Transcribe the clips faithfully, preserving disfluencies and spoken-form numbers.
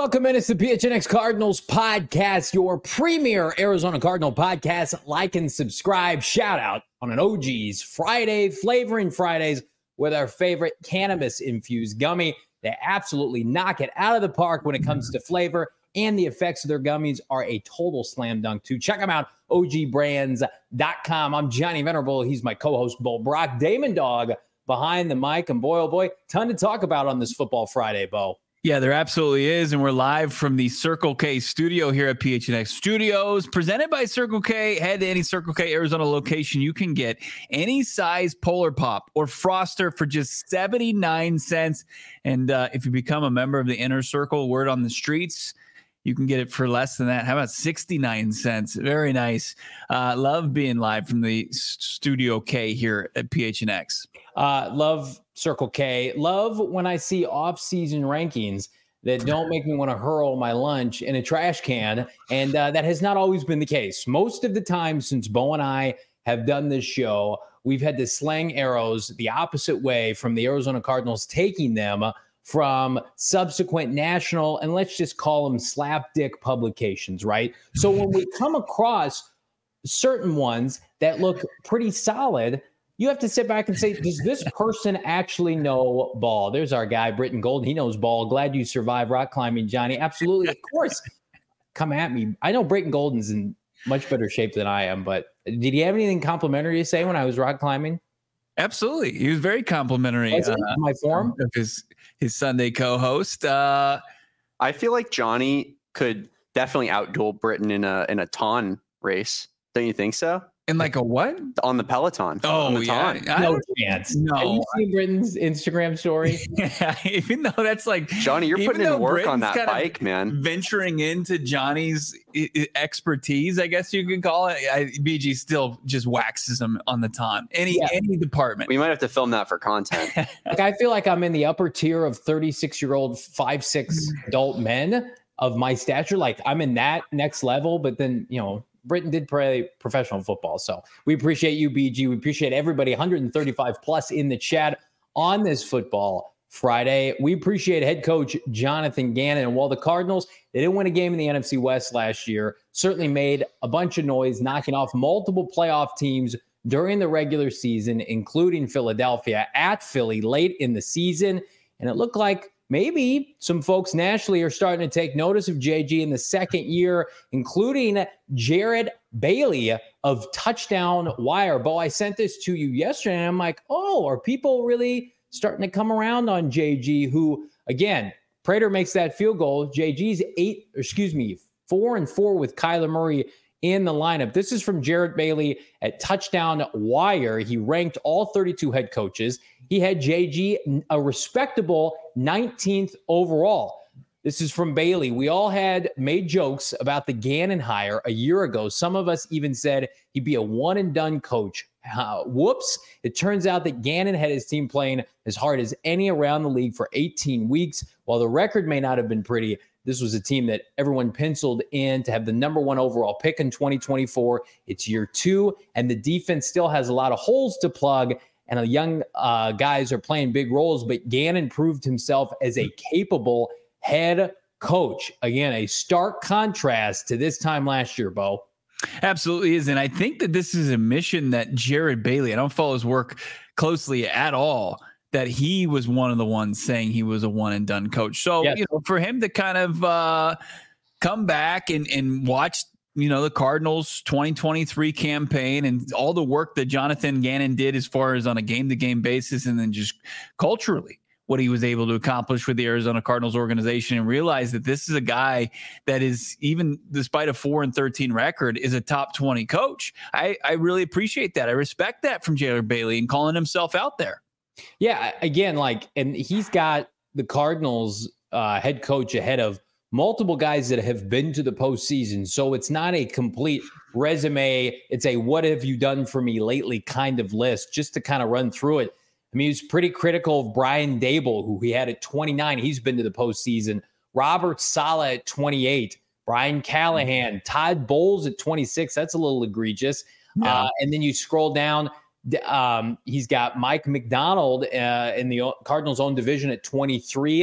welcome in. It's the P H N X Cardinals podcast, your premier Arizona Cardinal podcast. Like and subscribe. Shout out on an O G's Friday, Flavoring Fridays with our favorite cannabis-infused gummy. They absolutely knock it out of the park when it comes to flavor, and the effects of their gummies are a total slam dunk too. Check them out, O G brands dot com. I'm Johnny Venerable. He's my co-host, Bo Brock. Damon Dog behind the mic, and boy, oh boy, ton to talk about on this Football Friday, Bo. Yeah, there absolutely is, and we're live from the Circle K studio here at P H N X Studios, presented by Circle K. Head to any Circle K Arizona location. You can get any size Polar Pop or Froster for just seventy-nine cents, and uh, if you become a member of the Inner Circle, word on the streets, you can get it for less than that. How about sixty-nine cents? Very nice. Uh, love being live from the Studio K here at P H N X. Uh, love Circle K. Love when I see off-season rankings that don't make me want to hurl my lunch in a trash can, and uh, that has not always been the case. Most of the time since Bo and I have done this show, we've had to slang arrows the opposite way from the Arizona Cardinals, taking them from subsequent national, and let's just call them slapdick publications, right? So when we come across certain ones that look pretty solid, you have to sit back and say, does this person actually know ball? There's our guy, Britton Golden. He knows ball. Glad you survived rock climbing, Johnny. Absolutely. Of course. Come at me. I know Britton Golden's in much better shape than I am, but did he have anything complimentary to say when I was rock climbing? Absolutely. He was very complimentary was uh, my form of his, his Sunday co-host. Uh, I feel like Johnny could definitely outduel Britton in a in a ton race. Don't you think so? In like a what? On the Peloton. Oh, on the yeah. No chance. No. Have you seen Britton's Instagram story? Yeah, even though that's like... Johnny, you're putting in work Britton's on that bike, man. Venturing into Johnny's expertise, I guess you could call it. I, B G still just waxes him on the time. Any yeah. any department. We might have to film that for content. Like, I feel like I'm in the upper tier of thirty-six-year-old, five six adult men of my stature. Like, I'm in that next level, but then, you know, Britton did play professional football. So we appreciate you, B G. We appreciate everybody, one hundred thirty-five plus in the chat on this Football Friday. We appreciate head coach Jonathan Gannon. And while the Cardinals, they didn't win a game in the N F C West last year, certainly made a bunch of noise, knocking off multiple playoff teams during the regular season, including Philadelphia at Philly late in the season. And it looked like maybe some folks nationally are starting to take notice of J G in the second year, including Jared Bailey of Touchdown Wire. Bo, I sent this to you yesterday, and I'm like, oh, are people really starting to come around on J G, who, again, Prater makes that field goal. J G's eight, excuse me, four and four with Kyler Murray in the lineup. This is from Jared Bailey at Touchdown Wire. He ranked all thirty-two head coaches. He had J G a respectable nineteenth overall. This is from Bailey. We all had made jokes about the Gannon hire a year ago. Some of us even said he'd be a one and done coach. Uh, whoops. It turns out that Gannon had his team playing as hard as any around the league for eighteen weeks. While the record may not have been pretty, this was a team that everyone penciled in to have the number one overall pick in twenty twenty-four. It's year two, and the defense still has a lot of holes to plug, and the young uh, guys are playing big roles, but Gannon proved himself as a capable head coach. Again, a stark contrast to this time last year, Bo. Absolutely is, and I think that this is a mission that Jared Bailey, I don't follow his work closely at all, that he was one of the ones saying he was a one and done coach. So, yes. you know, for him to kind of uh, come back and, and watch, you know, the Cardinals twenty twenty-three campaign and all the work that Jonathan Gannon did as far as on a game to game basis, and then just culturally what he was able to accomplish with the Arizona Cardinals organization, and realize that this is a guy that is, even despite a four and thirteen record, is a top twenty coach. I, I really appreciate that. I respect that from Jared Bailey and calling himself out there. Yeah, again, like, and he's got the Cardinals uh, head coach ahead of multiple guys that have been to the postseason. So it's not a complete resume. It's a what have you done for me lately kind of list, just to kind of run through it. I mean, he was pretty critical of Brian Dable, who he had at twenty-nine. He's been to the postseason. Robert Saleh at twenty-eight. Brian Callahan. Todd Bowles at twenty-six. That's a little egregious. Yeah. Uh, and then you scroll down. Um, he's got Mike McDonald uh, in the Cardinals' own division at twenty-three.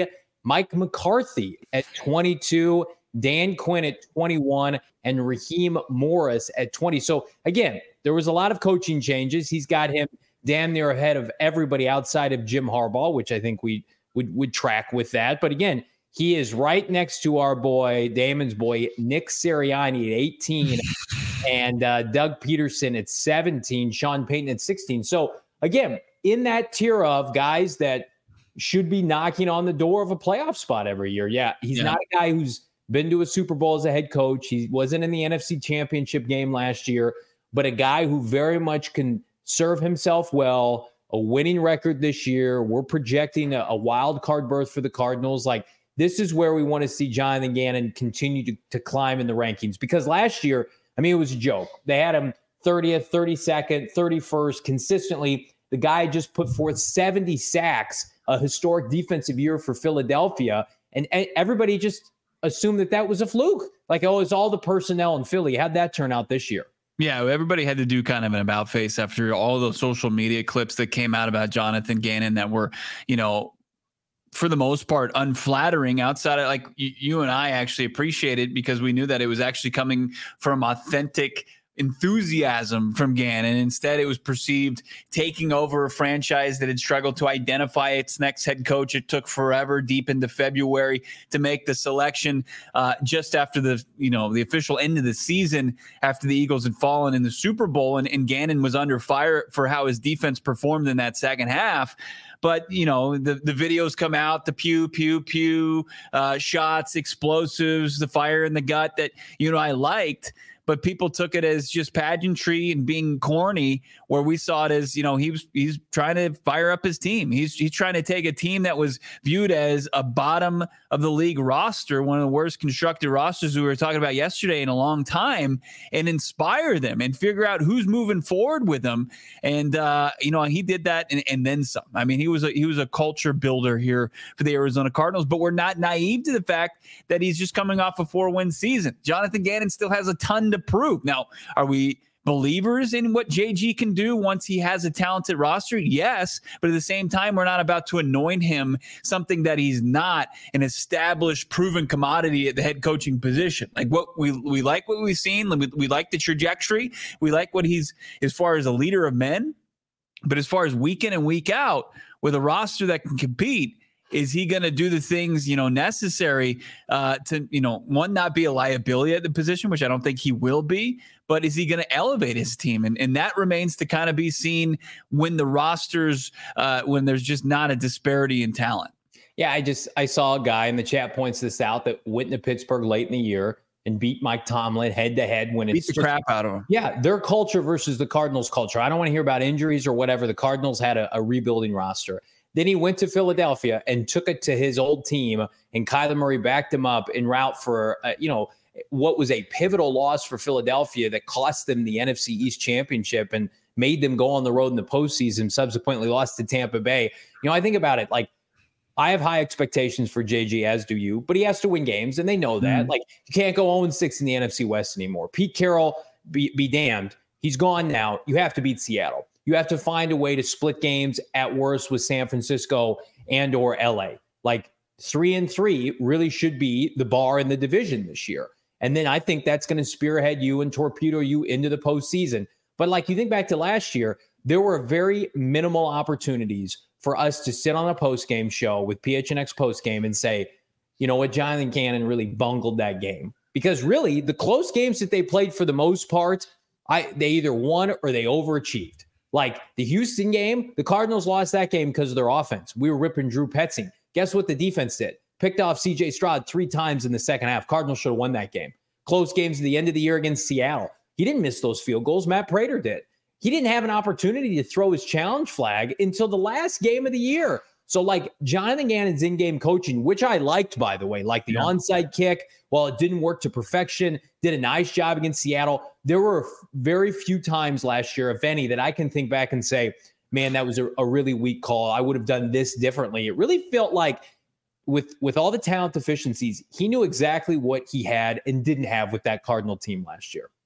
Mike McCarthy at twenty-two, Dan Quinn at twenty-one, and Raheem Morris at twenty. So again, there was a lot of coaching changes. He's got him damn near ahead of everybody outside of Jim Harbaugh, which I think we would, would track with that. But again, he is right next to our boy, Damon's boy, Nick Sirianni at eighteen, and uh, Doug Peterson at seventeen, Sean Payton at sixteen. So again, in that tier of guys that should be knocking on the door of a playoff spot every year. Yeah, he's yeah. not a guy who's been to a Super Bowl as a head coach. He wasn't in the N F C Championship game last year, but a guy who very much can serve himself well, a winning record this year. We're projecting a, a wild card berth for the Cardinals. Like, this is where we want to see Jonathan Gannon continue to, to climb in the rankings, because last year, I mean, it was a joke. They had him thirtieth, thirty-second, thirty-first consistently. The guy just put forth seventy sacks, a historic defensive year for Philadelphia. And everybody just assumed that that was a fluke. Like, oh, it's all the personnel in Philly. How'd that turn out this year? Yeah, everybody had to do kind of an about face after all those social media clips that came out about Jonathan Gannon that were, you know, for the most part, unflattering. Outside of, like, you, you and I actually appreciate it because we knew that it was actually coming from authentic enthusiasm from Gannon. Instead, it was perceived taking over a franchise that had struggled to identify its next head coach. It took forever, deep into February, to make the selection uh, just after the, you know, the official end of the season, after the Eagles had fallen in the Super Bowl, and, and Gannon was under fire for how his defense performed in that second half. But, you know, the, the videos come out, the pew, pew, pew, uh, shots, explosives, the fire in the gut that, you know, I liked. But people took it as just pageantry and being corny, where we saw it as, you know, he was he's trying to fire up his team. He's he's trying to take a team that was viewed as a bottom of the league roster, one of the worst constructed rosters we were talking about yesterday in a long time, and inspire them and figure out who's moving forward with them. And uh, you know, he did that and, and then some. I mean, he was a he was a culture builder here for the Arizona Cardinals. But we're not naive to the fact that he's just coming off a four-win season. Jonathan Gannon still has a ton to prove. Now, are we believers in what J G can do once he has a talented roster? Yes, but at the same time, we're not about to anoint him something that he's not, an established, proven commodity at the head coaching position. Like, what we we like what we've seen, we, we like the trajectory, we like what he's as far as a leader of men, but as far as week in and week out with a roster that can compete, is he going to do the things, you know, necessary uh, to, you know, one, not be a liability at the position, which I don't think he will be, but is he going to elevate his team? And and that remains to kind of be seen when the rosters, uh, when there's just not a disparity in talent. Yeah, I just, I saw a guy in the chat points this out that went to Pittsburgh late in the year and beat Mike Tomlin head to head when it's beat the just, crap out of him. Yeah, their culture versus the Cardinals culture. I don't want to hear about injuries or whatever. The Cardinals had a, a rebuilding roster. Then he went to Philadelphia and took it to his old team, and Kyler Murray backed him up en route for, uh, you know, what was a pivotal loss for Philadelphia that cost them the N F C East championship and made them go on the road in the postseason, subsequently lost to Tampa Bay. You know, I think about it, like, I have high expectations for J G, as do you, but he has to win games, and they know that. Mm. Like, you can't go oh and six in the N F C West anymore. Pete Carroll, be, be damned. He's gone now. You have to beat Seattle. You have to find a way to split games at worst with San Francisco and or L A. Like, three and three really should be the bar in the division this year. And then I think that's going to spearhead you and torpedo you into the postseason. But like, you think back to last year, there were very minimal opportunities for us to sit on a postgame show with P H N X postgame and say, you know what, Jonathan Gannon really bungled that game. Because really, the close games that they played for the most part, I they either won or they overachieved. Like the Houston game, the Cardinals lost that game because of their offense. We were ripping Drew Petzing. Guess what the defense did? Picked off C J Stroud three times in the second half. Cardinals should have won that game. Close games at the end of the year against Seattle. He didn't miss those field goals. Matt Prater did. He didn't have an opportunity to throw his challenge flag until the last game of the year. So, like, Jonathan Gannon's in-game coaching, which I liked, by the way, like the yeah. onside kick, while it didn't work to perfection, did a nice job against Seattle. There were very few times last year, if any, that I can think back and say, man, that was a, a really weak call. I would have done this differently. It really felt like with, with all the talent deficiencies, he knew exactly what he had and didn't have with that Cardinal team last year.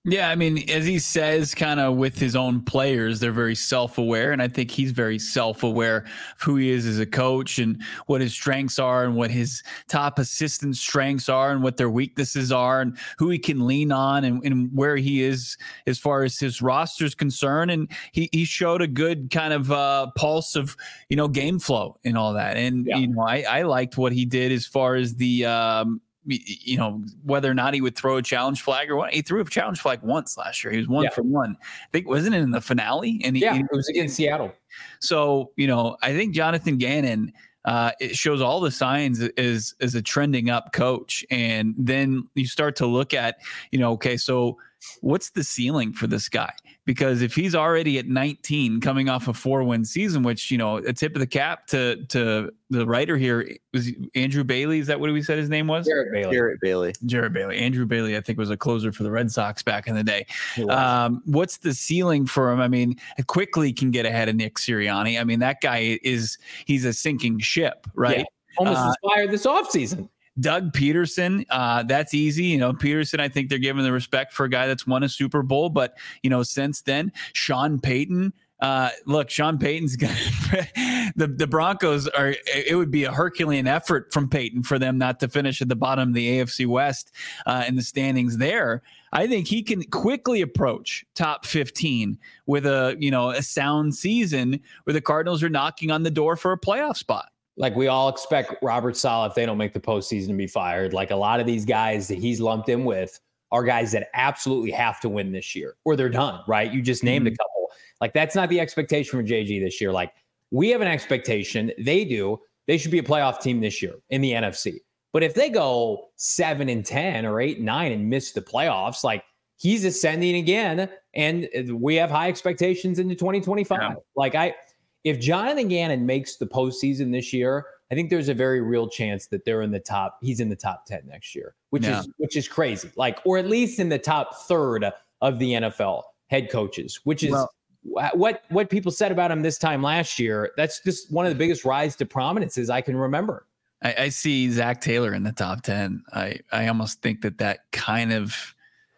Yeah, I mean, as he says, kind of with his own players, they're very self-aware, and I think he's very self-aware of who he is as a coach and what his strengths are and what his top assistant strengths are and what their weaknesses are and who he can lean on and, and where he is as far as his roster is concerned. And he he showed a good kind of uh, pulse of, you know, game flow and all that. And, yeah. you know, I, I liked what he did as far as the um, – you know, whether or not he would throw a challenge flag or what. He threw a challenge flag once last year. He was one yeah. for one. I think, wasn't it in the finale? And he, yeah, he, it was against Seattle. So, you know, I think Jonathan Gannon, uh, it shows all the signs as, as a trending up coach. And then you start to look at, you know, okay, so what's the ceiling for this guy? Because if he's already at nineteen coming off a four win season, which, you know, a tip of the cap to, to the writer here was Andrew Bailey. Is that what we said his name was? Jarrett Bailey. Jarrett Bailey. Jarrett Bailey. Andrew Bailey, I think, was a closer for the Red Sox back in the day. Um, what's the ceiling for him? I mean, quickly can get ahead of Nick Sirianni. I mean, that guy is, he's a sinking ship, right? Yeah. Almost uh, inspired this offseason. Doug Peterson, uh, that's easy. You know, Peterson, I think they're giving the respect for a guy that's won a Super Bowl. But, you know, since then, Sean Payton, uh, look, Sean Payton's going to, the, the Broncos are, it would be a Herculean effort from Payton for them not to finish at the bottom of the A F C West uh, in the standings there. I think he can quickly approach top fifteen with a, you know, a sound season where the Cardinals are knocking on the door for a playoff spot. Like we all expect Robert Saleh, if they don't make the postseason, to be fired. Like a lot of these guys that he's lumped in with are guys that absolutely have to win this year or they're done, right? You just named mm-hmm. a couple. Like that's not the expectation for J G this year. Like we have an expectation. They do. They should be a playoff team this year in the N F C. But if they go seven and ten or eight and nine and miss the playoffs, like he's ascending again. And we have high expectations into twenty twenty-five. Yeah. Like I, If Jonathan Gannon makes the postseason this year, I think there's a very real chance that they're in the top. He's in the top ten next year, which yeah. is which is crazy. Like, or at least in the top third of the N F L head coaches, which is well, what what people said about him this time last year. That's just one of the biggest rise to prominences I can remember. I, I see Zach Taylor in the top ten. I I almost think that that kind of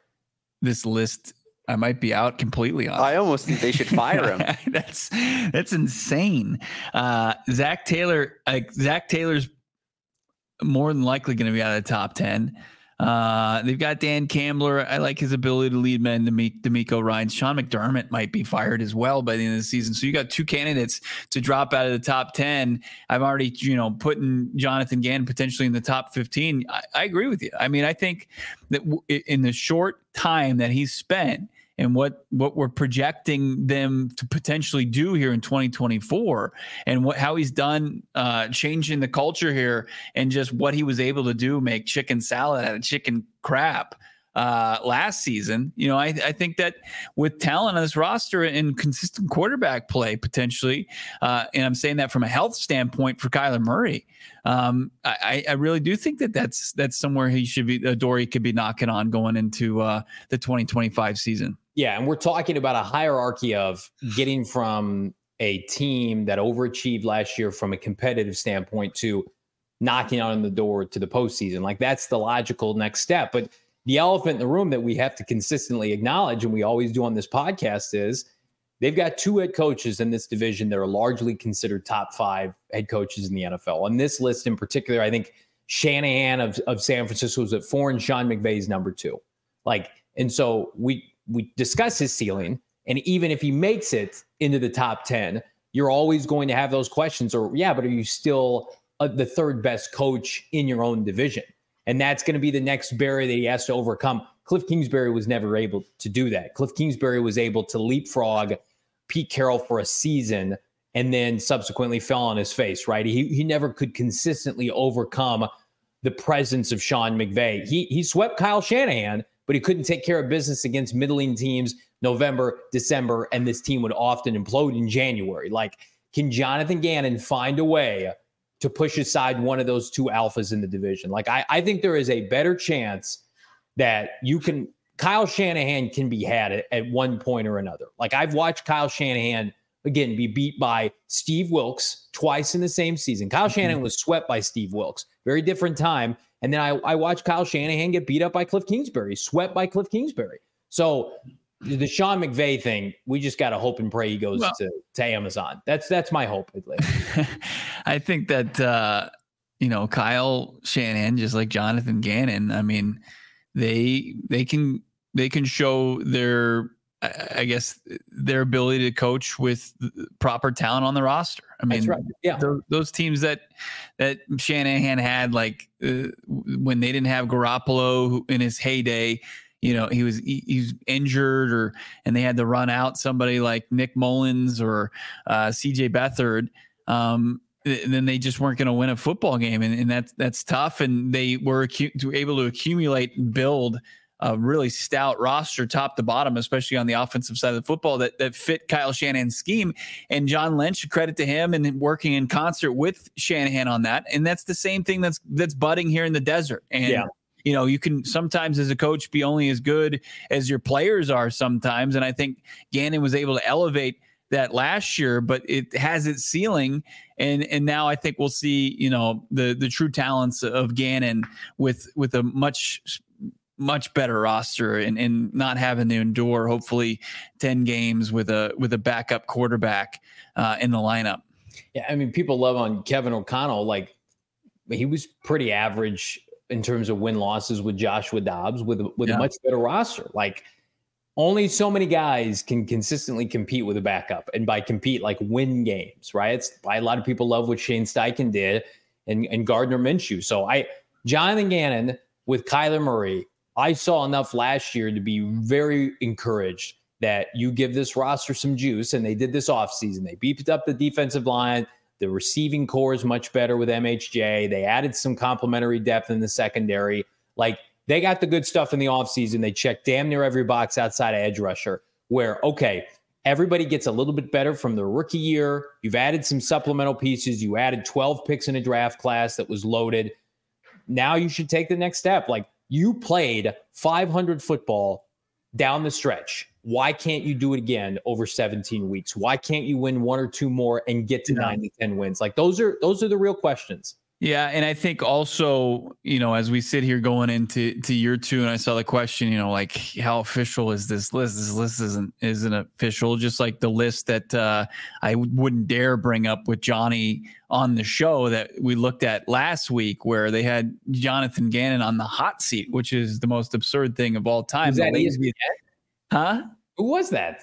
this list. I might be out completely on. I almost think they should fire him. that's that's insane. Uh, Zach Taylor, uh, Zach Taylor's more than likely going to be out of the top ten. Uh, they've got Dan Campbell. I like his ability to lead men to meet D'Amico Ryans. Sean McDermott might be fired as well by the end of the season. So you got two candidates to drop out of the top ten. I'm already, you know, putting Jonathan Gannon potentially in the top fifteen. I, I agree with you. I mean, I think that w- in the short time that he's spent, and what, what we're projecting them to potentially do here in twenty twenty-four and what, how he's done uh, changing the culture here and just what he was able to do, make chicken salad out of chicken crap uh, last season. You know, I, I think that with talent on this roster and consistent quarterback play potentially, uh, and I'm saying that from a health standpoint for Kyler Murray, um, I, I really do think that that's, that's somewhere he should be, a door he could be knocking on going into uh, the twenty twenty-five season. Yeah, and we're talking about a hierarchy of getting from a team that overachieved last year from a competitive standpoint to knocking on the door to the postseason. Like that's the logical next step. But the elephant in the room that we have to consistently acknowledge, and we always do on this podcast, is they've got two head coaches in this division that are largely considered top five head coaches in the N F L. On this list in particular, I think Shanahan of, of San Francisco is at four and Sean McVay is number two. Like, and so we we discuss his ceiling, and even if he makes it into the top ten, you're always going to have those questions. Or yeah, but are you still uh, the third best coach in your own division? And that's going to be the next barrier that he has to overcome. Cliff Kingsbury was never able to do that. Cliff Kingsbury was able to leapfrog Pete Carroll for a season and then subsequently fell on his face, right? He he never could consistently overcome the presence of Sean McVay. He he swept Kyle Shanahan, but he couldn't take care of business against middling teams November, December, and this team would often implode in January. Like, can Jonathan Gannon find a way to push aside one of those two alphas in the division? Like, I, I think there is a better chance that you can – Kyle Shanahan can be had at, at one point or another. Like, I've watched Kyle Shanahan, again, be beat by Steve Wilkes twice in the same season. Kyle mm-hmm. Shanahan was swept by Steve Wilkes. Very different time. And then I, I watched Kyle Shanahan get beat up by Cliff Kingsbury, swept by Cliff Kingsbury. So the Sean McVay thing, we just got to hope and pray he goes well, to, to Amazon. That's that's my hope. I think that, uh, you know, Kyle Shanahan, just like Jonathan Gannon, I mean, they they can they can show their, I guess, their ability to coach with proper talent on the roster. I mean, That's right. Yeah, those, those teams that that Shanahan had, like uh, when they didn't have Garoppolo in his heyday, you know, he was he, he was injured, or and they had to run out somebody like Nick Mullins or uh, C J Beathard. Um, and then they just weren't going to win a football game, and, and that's that's tough. And they were acu- able to accumulate and build a really stout roster, top to bottom, especially on the offensive side of the football, that that fit Kyle Shanahan's scheme. And John Lynch, credit to him, and working in concert with Shanahan on that. And that's the same thing that's that's budding here in the desert. And yeah. You know, you can sometimes as a coach be only as good as your players are sometimes. And I think Gannon was able to elevate that last year, but it has its ceiling. And and now I think we'll see, you know, the the true talents of Gannon with with a much much better roster, and, and not having to endure hopefully ten games with a with a backup quarterback uh, in the lineup. Yeah, I mean, people love on Kevin O'Connell. Like, he was pretty average in terms of win losses with Joshua Dobbs with with yeah. a much better roster. Like, only so many guys can consistently compete with a backup, and by compete, like win games, right? It's why a lot of people love what Shane Steichen did and, and Gardner Minshew. So I, Jonathan Gannon with Kyler Murray, I saw enough last year to be very encouraged that you give this roster some juice, and they did this offseason. They beefed up the defensive line. The receiving core is much better with M H J. They added some complementary depth in the secondary. Like, they got the good stuff in the offseason. They checked damn near every box outside of edge rusher, where, okay, everybody gets a little bit better from the rookie year. You've added some supplemental pieces. You added twelve picks in a draft class that was loaded. Now you should take the next step. Like, you played five hundred football down the stretch. Why can't you do it again over seventeen weeks? Why can't you win one or two more and get to yeah. nine to ten wins? Like, those are those are the real questions. Yeah, and I think also, you know, as we sit here going into to year two, and I saw the question, you know, like, how official is this list? This list isn't isn't official. Just like the list that uh, I wouldn't dare bring up with Johnny on the show that we looked at last week, where they had Jonathan Gannon on the hot seat, which is the most absurd thing of all time. Is that easy? Huh? Who was that?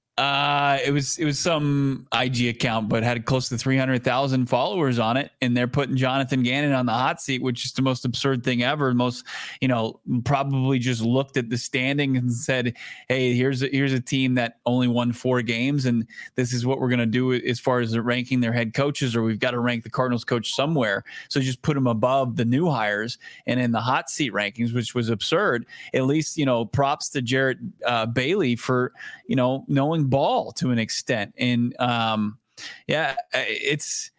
Uh, it was it was some I G account, but had close to three hundred thousand followers on it, and they're putting Jonathan Gannon on the hot seat, which is the most absurd thing ever. Most, you know, probably just looked at the standing and said, "Hey, here's a, here's a team that only won four games, and this is what we're going to do as far as ranking their head coaches, or we've got to rank the Cardinals coach somewhere. So just put them above the new hires and in the hot seat rankings," which was absurd. At least, you know, props to Jarrett uh, Bailey for, you know, knowing ball to an extent. And um yeah it's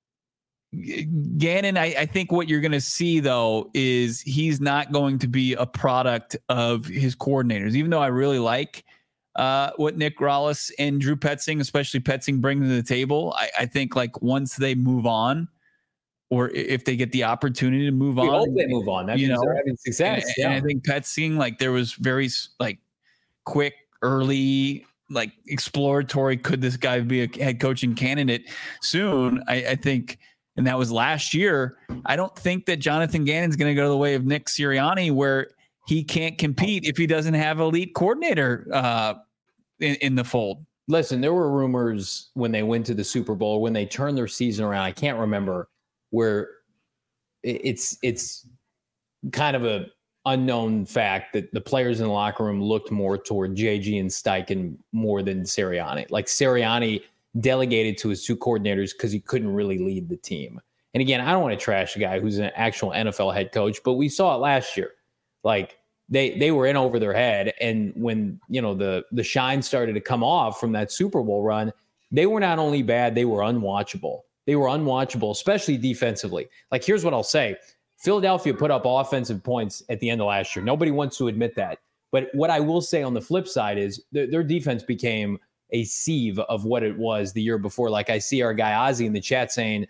Gannon. I, I think what you're going to see though is he's not going to be a product of his coordinators, even though I really like uh what Nick Rallis and Drew Petzing, especially Petzing, bring to the table. I, I think like once they move on, or if they get the opportunity to move we on, hope they move on. That you means know, they're having success. And, yeah. and I think Petzing, like, there was very like quick, early, like exploratory, could this guy be a head coaching candidate soon? I, I think, and that was last year. I don't think that Jonathan Gannon's going to go the way of Nick Sirianni, where he can't compete if he doesn't have elite coordinator uh, in, in the fold. Listen, there were rumors when they went to the Super Bowl, when they turned their season around. I can't remember, where it's it's kind of a unknown fact that the players in the locker room looked more toward J G and Steichen more than Sirianni. Like, Sirianni delegated to his two coordinators because he couldn't really lead the team. And again, I don't want to trash a guy who's an actual N F L head coach, but we saw it last year. Like, they they were in over their head. And when, you know, the the shine started to come off from that Super Bowl run, they were not only bad, they were unwatchable. They were unwatchable, especially defensively. Like, here's what I'll say. Philadelphia put up offensive points at the end of last year. Nobody wants to admit that. But what I will say on the flip side is their, their defense became a sieve of what it was the year before. Like, I see our guy Ozzy in the chat saying, you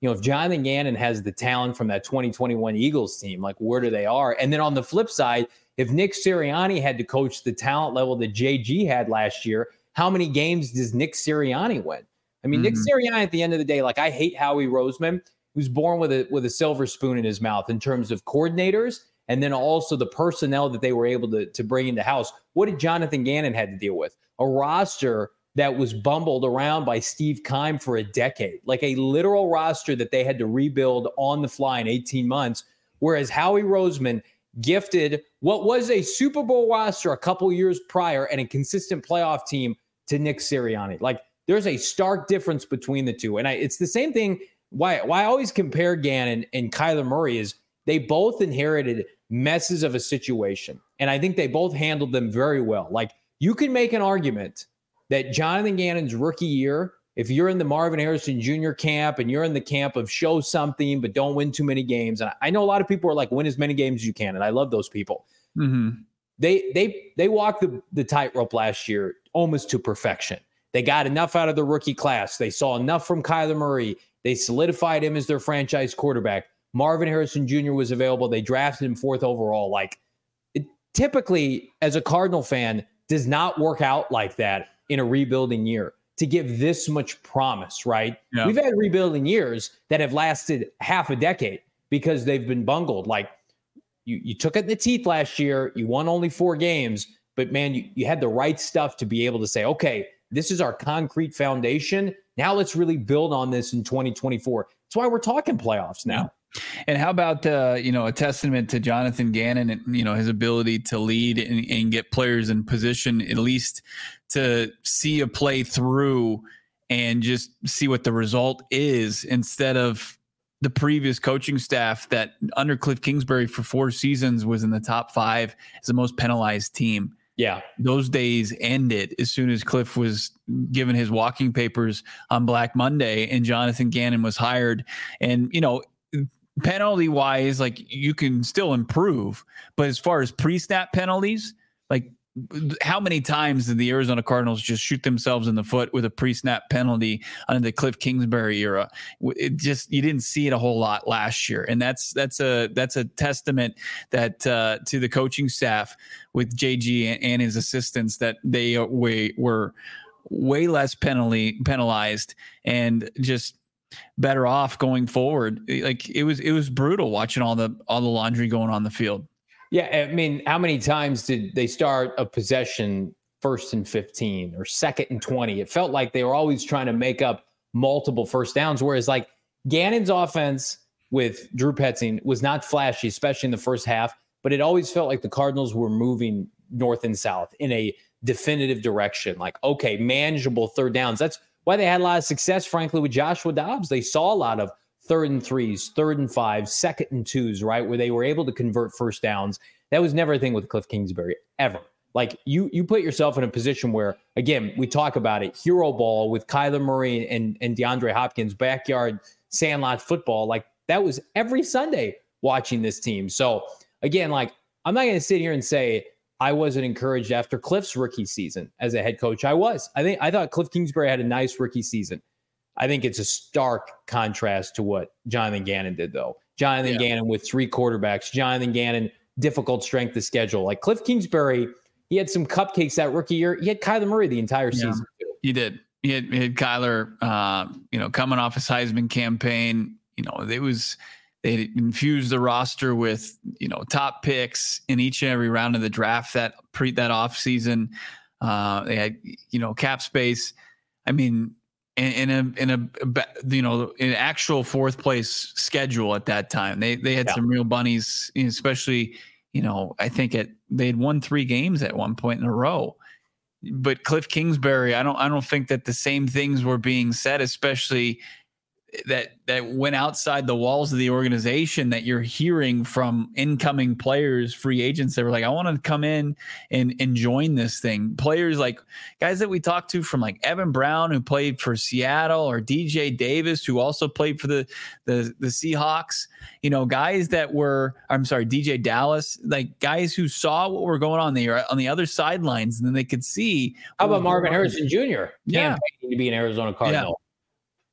you know, if Jonathan Gannon has the talent from that twenty twenty-one Eagles team, like where do they are? And then on the flip side, if Nick Sirianni had to coach the talent level that J G had last year, how many games does Nick Sirianni win? I mean, mm-hmm. Nick Sirianni, at the end of the day, like I hate Howie Roseman, who's born with a with a silver spoon in his mouth in terms of coordinators and then also the personnel that they were able to, to bring into house. What did Jonathan Gannon had to deal with? A roster that was bumbled around by Steve Keim for a decade, like a literal roster that they had to rebuild on the fly in eighteen months, whereas Howie Roseman gifted what was a Super Bowl roster a couple years prior and a consistent playoff team to Nick Sirianni. Like, there's a stark difference between the two. And I, it's the same thing. Why, why I always compare Gannon and Kyler Murray is they both inherited messes of a situation. And I think they both handled them very well. Like, you can make an argument that Jonathan Gannon's rookie year, if you're in the Marvin Harrison Junior camp and you're in the camp of show something but don't win too many games, and I know a lot of people are like, win as many games as you can, and I love those people. Mm-hmm. They they they walked the, the tightrope last year almost to perfection. They got enough out of the rookie class. They saw enough from Kyler Murray. They solidified him as their franchise quarterback. Marvin Harrison Junior was available. They drafted him fourth overall. Like, it typically, as a Cardinal fan, does not work out like that in a rebuilding year to give this much promise, right? Yeah. We've had rebuilding years that have lasted half a decade because they've been bungled. Like, you, you took it in the teeth last year. You won only four games, but man, you, you had the right stuff to be able to say, okay, this is our concrete foundation. Now let's really build on this in twenty twenty-four. That's why we're talking playoffs now. And how about, uh, you know, a testament to Jonathan Gannon and, you know, his ability to lead and, and get players in position, at least to see a play through and just see what the result is, instead of the previous coaching staff that under Cliff Kingsbury for four seasons was in the top five as the most penalized team. Yeah. Those days ended as soon as Cliff was given his walking papers on Black Monday and Jonathan Gannon was hired. And, you know, penalty wise, like, you can still improve, but as far as pre-snap penalties, like, how many times did the Arizona Cardinals just shoot themselves in the foot with a pre-snap penalty under the Cliff Kingsbury era? It just, you didn't see it a whole lot last year. And that's, that's a, that's a testament that, uh, to the coaching staff with J G and, and his assistants, that they way, were way less penalty penalized and just better off going forward. Like, it was, it was brutal watching all the, all the laundry going on the field. Yeah, I mean, how many times did they start a possession first and fifteen or second and twenty? It felt like they were always trying to make up multiple first downs, whereas like Gannon's offense with Drew Petzing was not flashy, especially in the first half, but it always felt like the Cardinals were moving north and south in a definitive direction. Like, okay, manageable third downs. That's why they had a lot of success, frankly, with Joshua Dobbs. They saw a lot of third and threes, third and fives, second and twos, right, where they were able to convert first downs. That was never a thing with Cliff Kingsbury, ever. Like, you you put yourself in a position where, again, we talk about it, hero ball with Kyler Murray and, and DeAndre Hopkins, backyard sandlot football. Like, that was every Sunday watching this team. So, again, like, I'm not going to sit here and say I wasn't encouraged after Cliff's rookie season as a head coach. I was. I think I thought Cliff Kingsbury had a nice rookie season. I think it's a stark contrast to what Jonathan Gannon did, though. Jonathan yeah. Gannon with three quarterbacks. Jonathan Gannon, difficult strength of schedule. Like, Cliff Kingsbury, he had some cupcakes that rookie year. He had Kyler Murray the entire yeah, season. Too. He did. He had, he had Kyler, uh, you know, coming off his Heisman campaign. You know, it was they infused the roster with, you know, top picks in each and every round of the draft that pre that off season. Uh, they had, you know, cap space. I mean. In, in a in a you know in actual fourth place schedule at that time, they they had yeah. some real bunnies, especially, you know, I think it they had won three games at one point in a row. But Cliff Kingsbury, I don't I don't think that the same things were being said, especially that that went outside the walls of the organization, that you're hearing from incoming players, free agents that were like, I want to come in and, and join this thing. Players like guys that we talked to from like Evan Brown, who played for Seattle, or D J Davis, who also played for the, the, the Seahawks, you know, guys that were, I'm sorry, D J Dallas, like guys who saw what were going on there on the other sidelines, and then they could see. How about Marvin Harrison Junior Yeah. Campaigning to be an Arizona Cardinal. Yeah.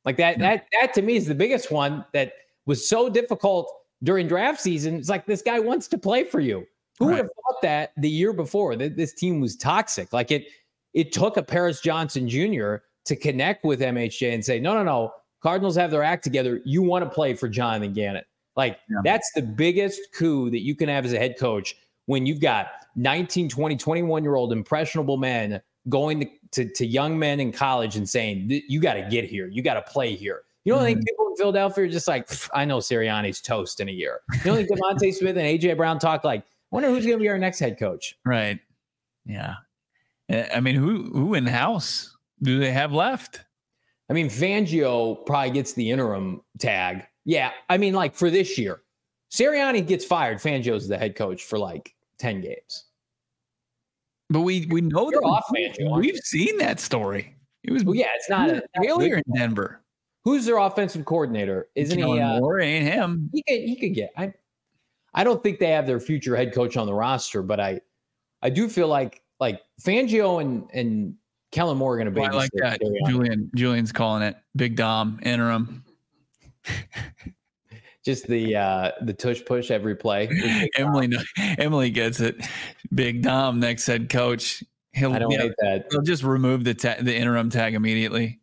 Like that, yeah. that, that to me is the biggest one that was so difficult during draft season. It's like, this guy wants to play for you. Who right. would have thought that the year before that this team was toxic? Like it, it took a Paris Johnson Junior to connect with M H J and say, no, no, no, Cardinals have their act together. You want to play for Jonathan Gannon. Like yeah. that's the biggest coup that you can have as a head coach when you've got nineteen, twenty, twenty-one year old impressionable men going to, to, to young men in college and saying, you got to get here. You got to play here. You don't mm-hmm. think people in Philadelphia are just like, I know Sirianni's toast in a year. You don't think Devontae Smith and A J Brown talk like, I wonder who's going to be our next head coach. Right. Yeah. I mean, who, who in house do they have left? I mean, Fangio probably gets the interim tag. Yeah. I mean, like for this year, Sirianni gets fired. Fangio's the head coach for like ten games. But we we know You're that off Fangio, we've seen that story. It was well, yeah, it's not a failure in Denver. Who's their offensive coordinator? Isn't Kellen he? Uh, Moore ain't him. He could he could get. I I don't think they have their future head coach on the roster, but I I do feel like like Fangio and and Kellen Moore are going to be. Oh, I like that. Julian Julian's calling it Big Dom interim. Just the uh, the tush push every play. Emily Emily gets it. Big Dom next head coach. He'll, I don't hate that. He'll just remove the ta- the interim tag immediately.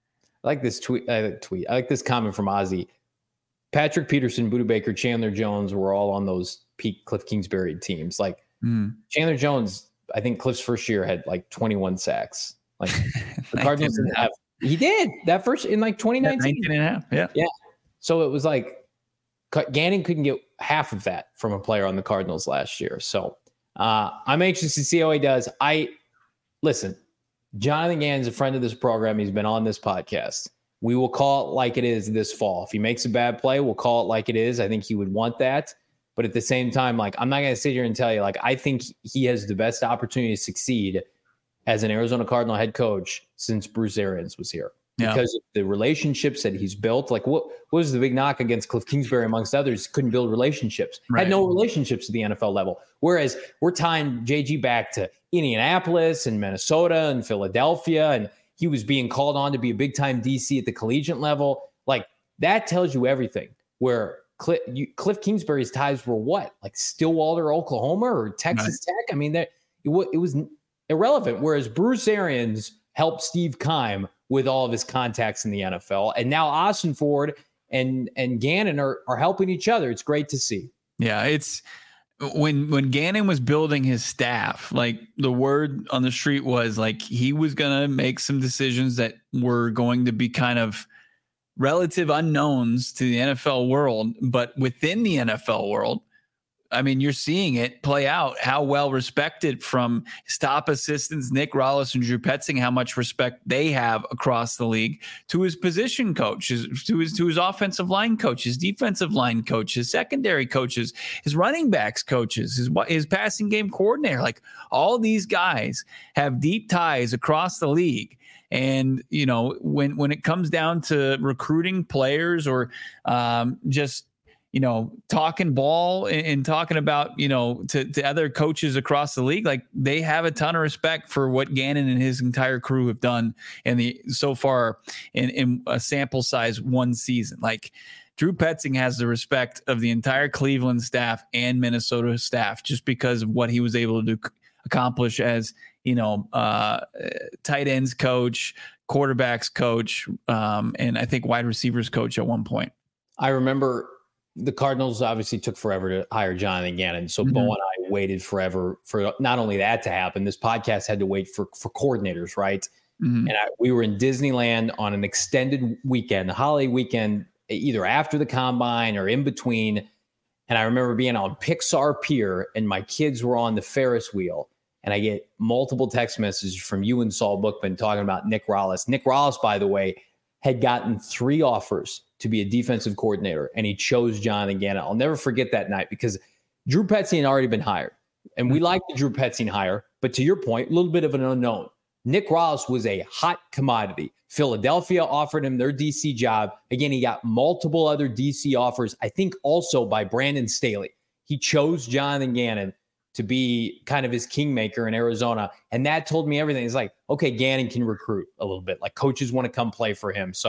I like this tweet. I like tweet. I like this comment from Ozzy. Patrick Peterson, Budda Baker, Chandler Jones were all on those peak Cliff Kingsbury teams. Like mm. Chandler Jones, I think Cliff's first year had like twenty-one sacks. Like the Cardinals didn't have. He did that first in like twenty nineteen. nineteen and a half. Yeah. Yeah. So it was like Gannon couldn't get half of that from a player on the Cardinals last year. So uh, I'm anxious to see how he does. I listen, Jonathan Gannon's a friend of this program. He's been on this podcast. We will call it like it is this fall. If he makes a bad play, we'll call it like it is. I think he would want that. But at the same time, like, I'm not going to sit here and tell you, like, I think he has the best opportunity to succeed as an Arizona Cardinal head coach since Bruce Arians was here. Yeah. Because of the relationships that he's built. Like, what, what was the big knock against Cliff Kingsbury, amongst others? Couldn't build relationships. Right. Had no relationships at the N F L level. Whereas we're tying J G back to Indianapolis and Minnesota and Philadelphia, and he was being called on to be a big-time D C at the collegiate level. Like, that tells you everything. Where Cliff, you, Cliff Kingsbury's ties were what? Like Stillwater, Oklahoma, or Texas right. Tech? I mean, that it, it was irrelevant. Whereas Bruce Arians helped Steve Keim with all of his contacts in the N F L. And now Austin Ford and and Gannon are, are helping each other. It's great to see. Yeah, it's when when Gannon was building his staff, like the word on the street was like he was going to make some decisions that were going to be kind of relative unknowns to the N F L world, but within the N F L world, I mean, you're seeing it play out, how well respected from stop assistants, Nick Rallis and Drew Petzing, how much respect they have across the league, to his position coaches, to his, to his offensive line coaches, defensive line coaches, secondary coaches, his running backs coaches, his, his passing game coordinator. Like, all these guys have deep ties across the league. And, you know, when, when it comes down to recruiting players or um, just, you know, talking ball and, and talking about, you know, to, to other coaches across the league, like, they have a ton of respect for what Gannon and his entire crew have done in the so far in, in a sample size one season. Like, Drew Petzing has the respect of the entire Cleveland staff and Minnesota staff just because of what he was able to do, accomplish as, you know, uh, tight ends coach, quarterbacks coach, um, and I think wide receivers coach at one point. I remember the Cardinals obviously took forever to hire Jonathan Gannon. So mm-hmm. Bo and I waited forever for not only that to happen, this podcast had to wait for, for coordinators, right? Mm-hmm. And I, we were in Disneyland on an extended weekend, a holiday weekend, either after the combine or in between. And I remember being on Pixar Pier and my kids were on the Ferris wheel. And I get multiple text messages from you and Saul Bookman talking about Nick Rallis. Nick Rallis, by the way, had gotten three offers to be a defensive coordinator, and he chose Jonathan Gannon. I'll never forget that night because Drew Petzing had already been hired, and we liked the Drew Petzing hire. But to your point, a little bit of an unknown. Nick Rallis was a hot commodity. Philadelphia offered him their D C job. Again, he got multiple other D C offers, I think also by Brandon Staley. He chose Jonathan Gannon to be kind of his kingmaker in Arizona. And that told me everything. It's like, okay, Gannon can recruit a little bit. Like, coaches want to come play for him. So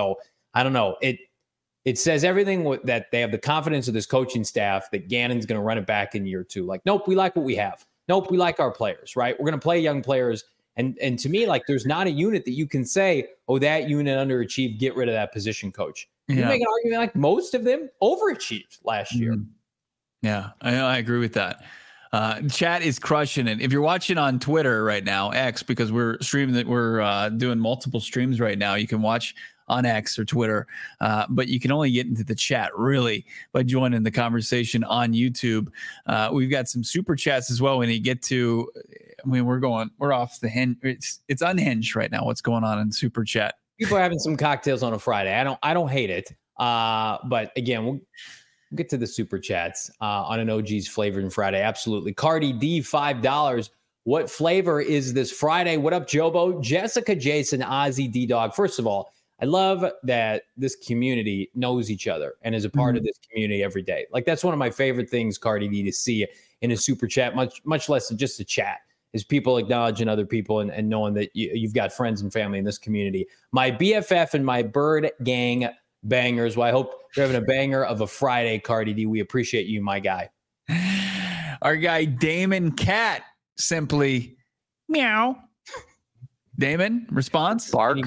I don't know. It it says everything w- that they have the confidence of this coaching staff that Gannon's going to run it back in year two. Like, nope, we like what we have. Nope, we like our players, right? We're going to play young players. And and to me, like, there's not a unit that you can say, oh, that unit underachieved, get rid of that position coach. Yeah. You make an argument like most of them overachieved last year. Mm-hmm. Yeah, I, I agree with that. Uh, chat is crushing it. If you're watching on Twitter right now, X, because we're streaming that we're uh, doing multiple streams right now, you can watch on X or Twitter, uh, but you can only get into the chat really by joining the conversation on YouTube. Uh, we've got some super chats as well. When you get to, I mean, we're going, we're off the hinge. It's it's unhinged right now. What's going on in super chat? People are having some cocktails on a Friday. I don't I don't hate it. Uh, but again, we'll get to the super chats uh, on an O G's Flavoring Friday. Absolutely. Cardi D, five dollars. What flavor is this Friday? What up, Jobo? Jessica, Jason, Ozzy, D-Dog. First of all, I love that this community knows each other and is a part mm-hmm. of this community every day. Like, that's one of my favorite things, Cardi D, to see in a super chat, much much less than just a chat, is people acknowledging other people and, and knowing that you, you've got friends and family in this community. My B F F and my Bird Gang bangers. Well, I hope you're having a banger of a Friday, Cardi D. We appreciate you, my guy. Our guy, Damon Cat, simply meow. Damon, response? Bark.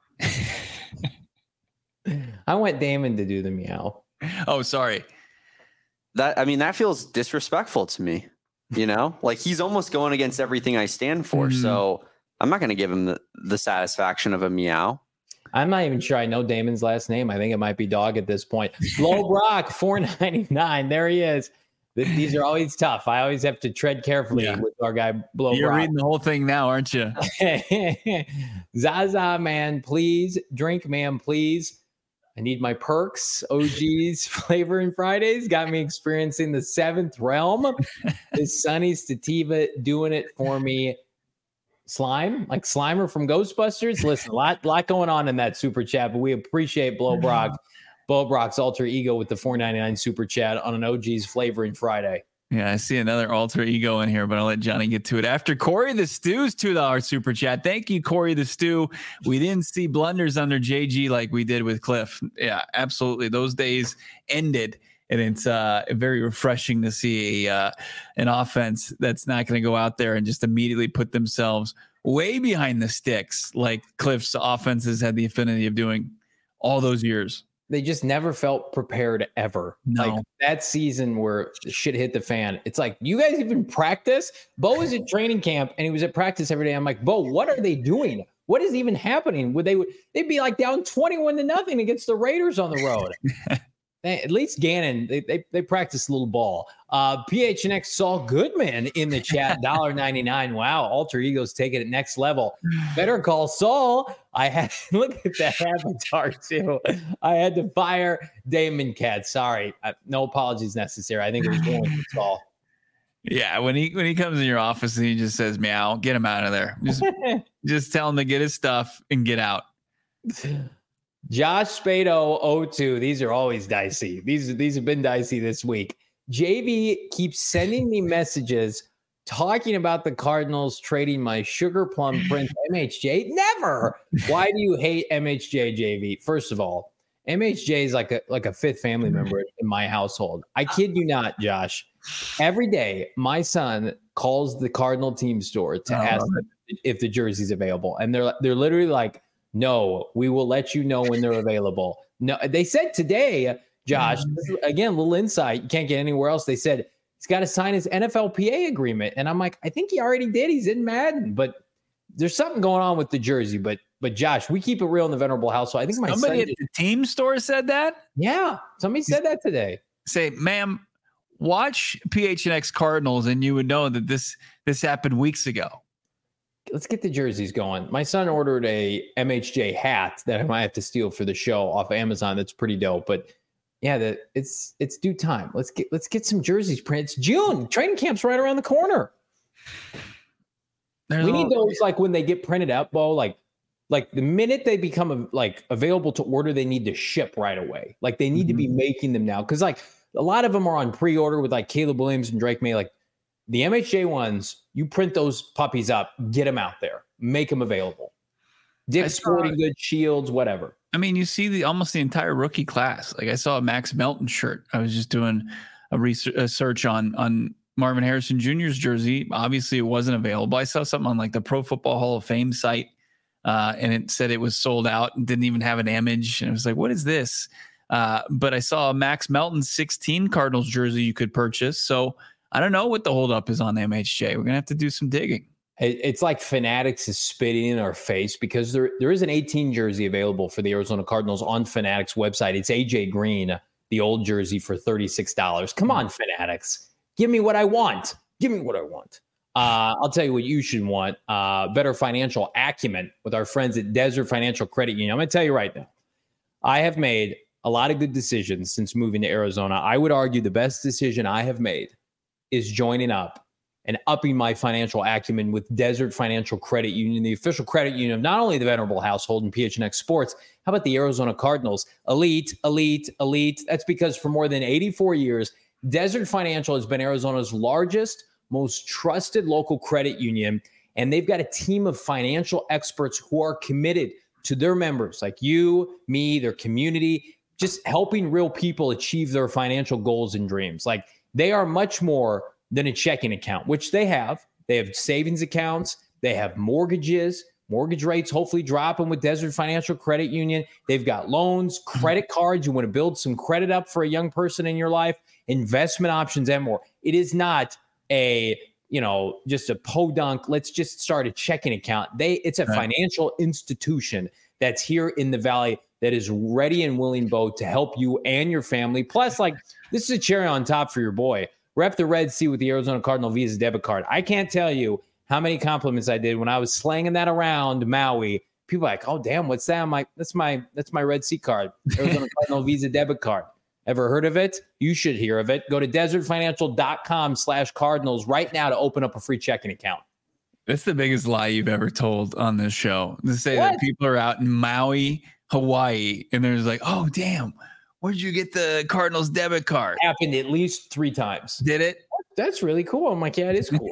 I want Damon to do the meow. Oh, sorry. That I mean, that feels disrespectful to me. You know, like he's almost going against everything I stand for. Mm. So I'm not going to give him the, the satisfaction of a meow. I'm not even sure I know Damon's last name. I think it might be Dog at this point. Blow Brock, four ninety-nine. There he is. These are always tough. I always have to tread carefully yeah. with our guy Blow You're Brock. reading the whole thing now, aren't you? Zaza, man, please. Drink, man, please. I need my perks. O G's Flavoring Fridays got me experiencing the seventh realm. This Sunny Sativa doing it for me. Slime, like Slimer from Ghostbusters. Listen, a lot, lot going on in that super chat, but we appreciate Blow Brock, Blow Brock's alter ego with the four ninety-nine super chat on an O G's Flavoring Friday. Yeah, I see another alter ego in here, but I'll let Johnny get to it after Corey the Stew's two dollars super chat. Thank you, Corey the Stew. We didn't see blunders under J G like we did with Cliff. Yeah, absolutely. Those days ended, and it's uh, very refreshing to see a, uh, an offense that's not going to go out there and just immediately put themselves way behind the sticks like Cliff's offenses had the affinity of doing all those years. They just never felt prepared ever. No. Like that season where shit hit the fan. It's like, you guys even practice? Bo was at training camp and he was at practice every day. I'm like, Bo, what are they doing? What is even happening? Would they they'd be like down twenty-one to nothing against the Raiders on the road. they, at least Gannon, they they, they practice a little ball. Uh, P H N X Saul Goodman in the chat, one dollar ninety-nine. Wow, alter egos taking it next level. Better call Saul. I had look at that avatar too. I had to fire Damon Cat. Sorry, I, no apologies necessary. I think it was going for Saul. Yeah, when he when he comes in your office and he just says meow, get him out of there. Just just tell him to get his stuff and get out. Josh Spado oh two. These are always dicey. These these have been dicey this week. J V keeps sending me messages talking about the Cardinals trading my sugar plum prince M H J. Never. Why do you hate M H J, J V? First of all, M H J is like a like a fifth family member in my household. I kid you not, Josh. Every day, my son calls the Cardinal team store to oh, ask if the jersey's available, and they're they're literally like, "No, we will let you know when they're available." No, they said today, Josh. Mm-hmm. Again, a little insight you can't get anywhere else. They said he's got to sign his N F L P A agreement, and I'm like, I think he already did. He's in Madden, but there's something going on with the jersey. But but Josh, we keep it real in the Venerable household. I think my somebody son at the team store said that. Yeah, somebody said that today. Say, ma'am, watch P H N X Cardinals, and you would know that this this happened weeks ago. Let's get the jerseys going. My son ordered a M H J hat that I might have to steal for the show off of Amazon. That's pretty dope. But yeah, the, it's it's due time. Let's get let's get some jerseys printed. It's June. Training camp's right around the corner. There's we need little, those like when they get printed out, Bo. Like like the minute they become like available to order, they need to ship right away. Like they need mm-hmm. to be making them now because like a lot of them are on pre-order with like Caleb Williams and Drake May. Like the M H J ones, you print those puppies up, get them out there, make them available. Dick's Sporting Goods, Shields, whatever. I mean, you see the almost the entire rookie class. Like I saw a Max Melton shirt. I was just doing a research a search on on Marvin Harrison Junior's jersey. Obviously, it wasn't available. I saw something on like the Pro Football Hall of Fame site, uh, and it said it was sold out and didn't even have an image. And I was like, "What is this?" Uh, but I saw a Max Melton sixteen Cardinals jersey you could purchase. So I don't know what the holdup is on M H J. We're gonna have to do some digging. It's like Fanatics is spitting in our face because there there is an eighteen jersey available for the Arizona Cardinals on Fanatics website. It's A J Green, the old jersey for thirty-six dollars. Come on, Fanatics. Give me what I want. Give me what I want. Uh, I'll tell you what you should want. Uh, better financial acumen with our friends at Desert Financial Credit Union. I'm going to tell you right now, I have made a lot of good decisions since moving to Arizona. I would argue the best decision I have made is joining up and upping my financial acumen with Desert Financial Credit Union, the official credit union of not only the Venerable Household and P H N X Sports. How about the Arizona Cardinals? Elite, elite, elite. That's because for more than eighty-four years, Desert Financial has been Arizona's largest, most trusted local credit union, and they've got a team of financial experts who are committed to their members, like you, me, their community, just helping real people achieve their financial goals and dreams. Like they are much more than a checking account, which they have. They have savings accounts. They have mortgages, mortgage rates hopefully dropping with Desert Financial Credit Union. They've got loans, credit cards. You want to build some credit up for a young person in your life, investment options, and more. It is not a, you know, just a podunk. Let's just start a checking account. They, it's a right. financial institution that's here in the Valley that is ready and willing, Bo, to help you and your family. Plus, like, this is a cherry on top for your boy. Rep the Red Sea with the Arizona Cardinal Visa debit card. I can't tell you how many compliments I did when I was slanging that around Maui. People are like, oh, damn, what's that? I'm like, that's my, that's my Red Sea card, Arizona Cardinal Visa debit card. Ever heard of it? You should hear of it. Go to desertfinancial.com slash Cardinals right now to open up a free checking account. That's the biggest lie you've ever told on this show. To say What? that people are out in Maui, Hawaii, and there's like, oh, damn. Where'd you get the Cardinals debit card? Happened at least three times. Did it? That's really cool. I'm like, yeah, it is cool.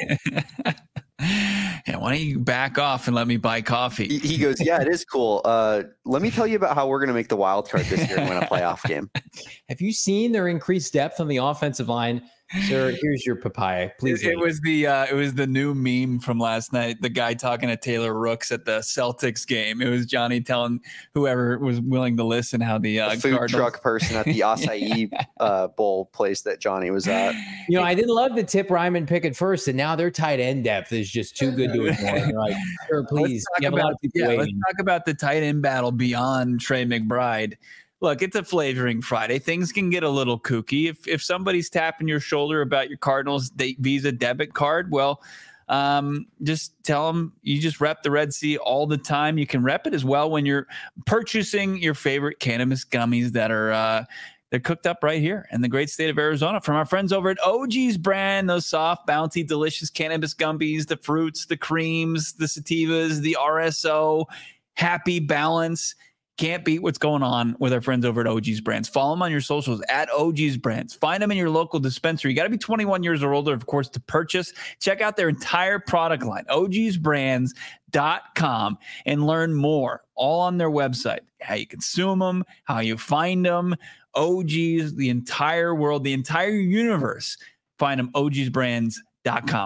Yeah, why don't you back off and let me buy coffee? He, he goes, yeah, it is cool. Uh, let me tell you about how we're going to make the wild card this year and win a playoff game. Have you seen their increased depth on the offensive line? Sir, here's your papaya. Please. It, it was the uh, it was the new meme from last night. The guy talking to Taylor Rooks at the Celtics game. It was Johnny telling whoever was willing to listen how the, uh, the food Cardinals- truck person at the acai uh, bowl place that Johnny was at. You know, I didn't love the Tip Ryman pick at first, and now their tight end depth is just too good to ignore. Like, sir, please. Let's talk, about, yeah, let's talk about the tight end battle beyond Trey McBride. Look, it's a flavoring Friday. Things can get a little kooky. If if somebody's tapping your shoulder about your Cardinals Visa debit card, well, um, just tell them you just rep the Red Sea all the time. You can rep it as well when you're purchasing your favorite cannabis gummies that are uh, they're cooked up right here in the great state of Arizona from our friends over at O G's brand. Those soft, bouncy, delicious cannabis gummies, the fruits, the creams, the sativas, the R S O, happy balance. Can't beat what's going on with our friends over at O G's Brands. Follow them on your socials at O G's Brands. Find them in your local dispensary. You got to be twenty-one years or older, of course, to purchase. Check out their entire product line, O G's brands dot com, and learn more all on their website. How you consume them, how you find them. O G's, the entire world, the entire universe. Find them, O G's brands dot com.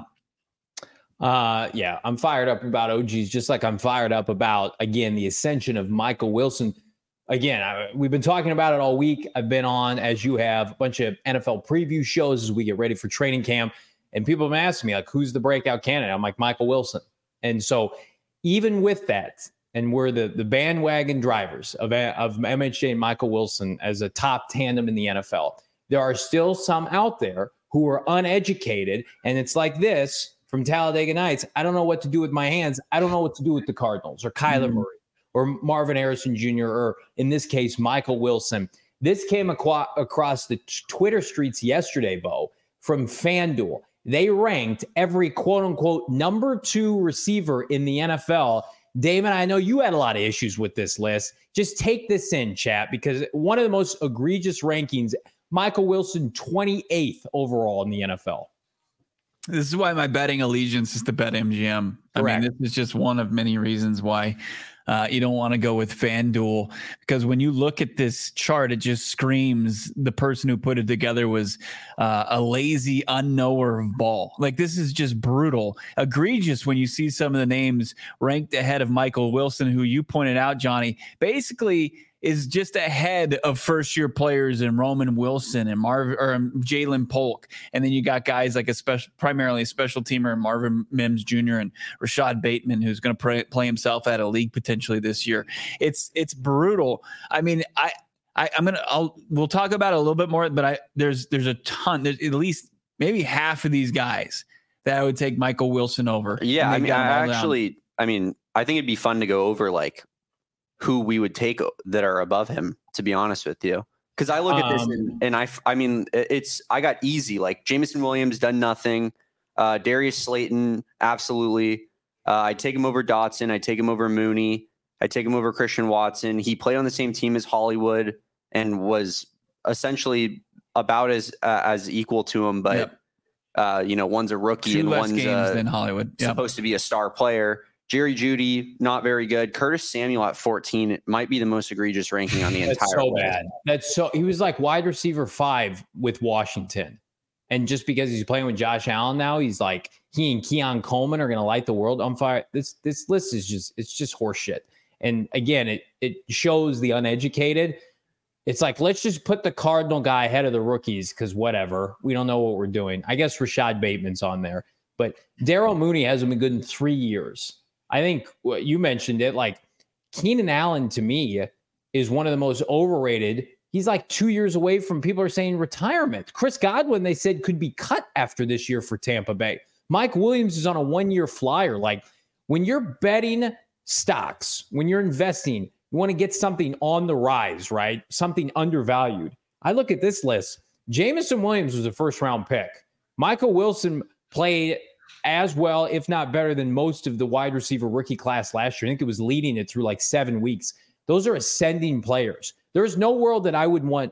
Uh, yeah, I'm fired up about O G's, just like I'm fired up about, again, the ascension of Michael Wilson. Again, I, we've been talking about it all week. I've been on, as you have, a bunch of N F L preview shows as we get ready for training camp. And people have been asking me, like, who's the breakout candidate? I'm like, Michael Wilson. And so even with that, and we're the, the bandwagon drivers of, of M H J and Michael Wilson as a top tandem in the N F L, there are still some out there who are uneducated. And it's like this. From Talladega Nights, I don't know what to do with my hands. I don't know what to do with the Cardinals or Kyler Murray or Marvin Harrison Junior or, in this case, Michael Wilson. This came aqua- across the t- Twitter streets yesterday, Bo, from FanDuel. They ranked every quote-unquote number two receiver in the N F L. David, I know you had a lot of issues with this list. Just take this in, chat, because one of the most egregious rankings, Michael Wilson, twenty-eighth overall in the N F L. This is why my betting allegiance is to BetMGM. I mean, this is just one of many reasons why Uh, you don't want to go with FanDuel, because when you look at this chart, it just screams the person who put it together was uh, a lazy unknower of ball. Like, this is just brutal, egregious when you see some of the names ranked ahead of Michael Wilson, who you pointed out, Johnny, basically is just ahead of first-year players in Roman Wilson and Marv or um, Jalen Polk, and then you got guys like a special, primarily a special teamer, Marvin Mims Junior and Rashad Bateman, who's going to play himself out of league potentially this year. It's it's brutal. I mean, I, I I'm gonna I'll we'll talk about it a little bit more, but I there's there's a ton. There's at least maybe half of these guys that I would take Michael Wilson over. Yeah, I mean, I actually, down. I mean, I think it'd be fun to go over like who we would take that are above him, to be honest with you. Because I look at this um, and, and I, I mean, it's, I got easy. Like Jameson Williams done nothing. Uh, Darius Slayton, absolutely. Uh, I take him over Dotson. I take him over Mooney. I take him over Christian Watson. He played on the same team as Hollywood and was essentially about as uh, as equal to him. But, yep. uh, you know, one's a rookie Two and less one's games uh, than Hollywood. Yep. supposed to be a star player. Jerry Jeudy, not very good. Curtis Samuel at fourteen, it might be the most egregious ranking on the That's entire so list. bad. That's so he was like wide receiver five with Washington. And just because he's playing with Josh Allen now, he's like he and Keon Coleman are gonna light the world on fire. This this list is just it's just horseshit. And again, it it shows the uneducated. It's like, let's just put the Cardinal guy ahead of the rookies because whatever. We don't know what we're doing. I guess Rashad Bateman's on there. But Darryl Mooney hasn't been good in three years. I think well, you mentioned it, like Keenan Allen to me is one of the most overrated. He's like two years away from people are saying retirement. Chris Godwin, they said, could be cut after this year for Tampa Bay. Mike Williams is on a one-year flyer. Like when you're betting stocks, when you're investing, you want to get something on the rise, right? Something undervalued. I look at this list. Jameson Williams was a first-round pick. Michael Wilson played as well, if not better than most of the wide receiver rookie class last year. I think it was leading it through like seven weeks. Those are ascending players. There's no world that I would want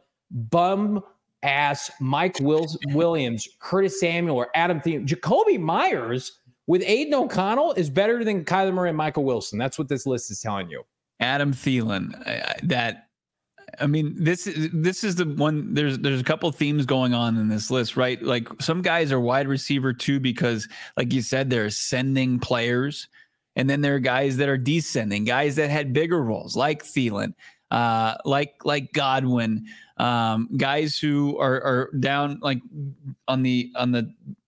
bum ass Mike Wills, Williams, Curtis Samuel, or Adam Thielen. Jacoby Myers with Aiden O'Connell is better than Kyler Murray and Michael Wilson. That's what this list is telling you. Adam Thielen, uh, that I mean, this is this is the one. There's there's a couple themes going on in this list, right? Like some guys are wide receiver too because, like you said, they're ascending players, and then there are guys that are descending, guys that had bigger roles, like Thielen, uh, like like Godwin, um, guys who are are down like on the on the.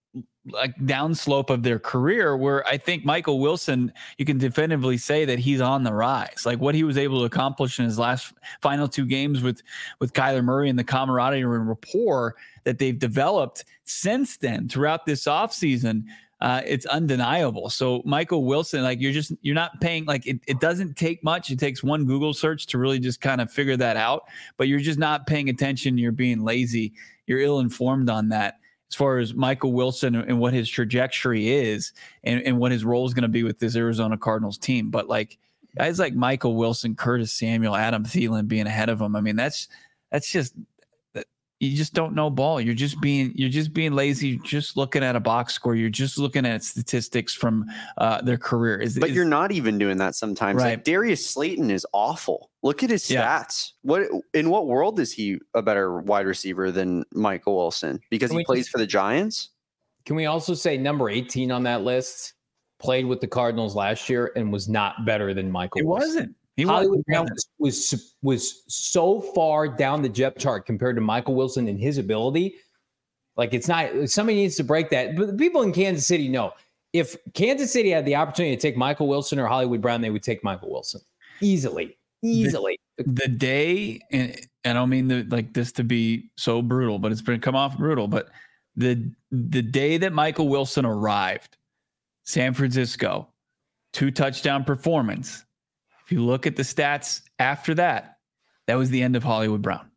like downslope of their career, where I think Michael Wilson, you can definitively say that he's on the rise. Like what he was able to accomplish in his last final two games with, with Kyler Murray and the camaraderie and rapport that they've developed since then throughout this offseason, uh, it's undeniable. So Michael Wilson, like you're just, you're not paying, like it, it doesn't take much. It takes one Google search to really just kind of figure that out, but you're just not paying attention. You're being lazy. You're ill-informed on that. As far as Michael Wilson and what his trajectory is and, and what his role is going to be with this Arizona Cardinals team. But like guys like Michael Wilson, Curtis Samuel, Adam Thielen being ahead of him. I mean, that's, that's just, you just don't know ball. You're just being, you're just being lazy. You're just looking at a box score. You're just looking at statistics from uh, their career. Is, but is, you're not even doing that sometimes. Right. Like Darius Slayton is awful. Look at his stats. Yeah. What in what world is he a better wide receiver than Michael Wilson? Because he plays just, for the Giants. Can we also say number eighteen on that list played with the Cardinals last year and was not better than Michael It Wilson? wasn't. He Hollywood Brown was, was was so far down the depth chart compared to Michael Wilson and his ability. Like it's not, somebody needs to break that. But the people in Kansas City know if Kansas City had the opportunity to take Michael Wilson or Hollywood Brown, they would take Michael Wilson easily, easily. The, the day, and I don't mean the, like this to be so brutal, but it's been come off brutal. But the the day that Michael Wilson arrived, San Francisco, two touchdown performance. If you look at the stats after that, that was the end of Hollywood Brown.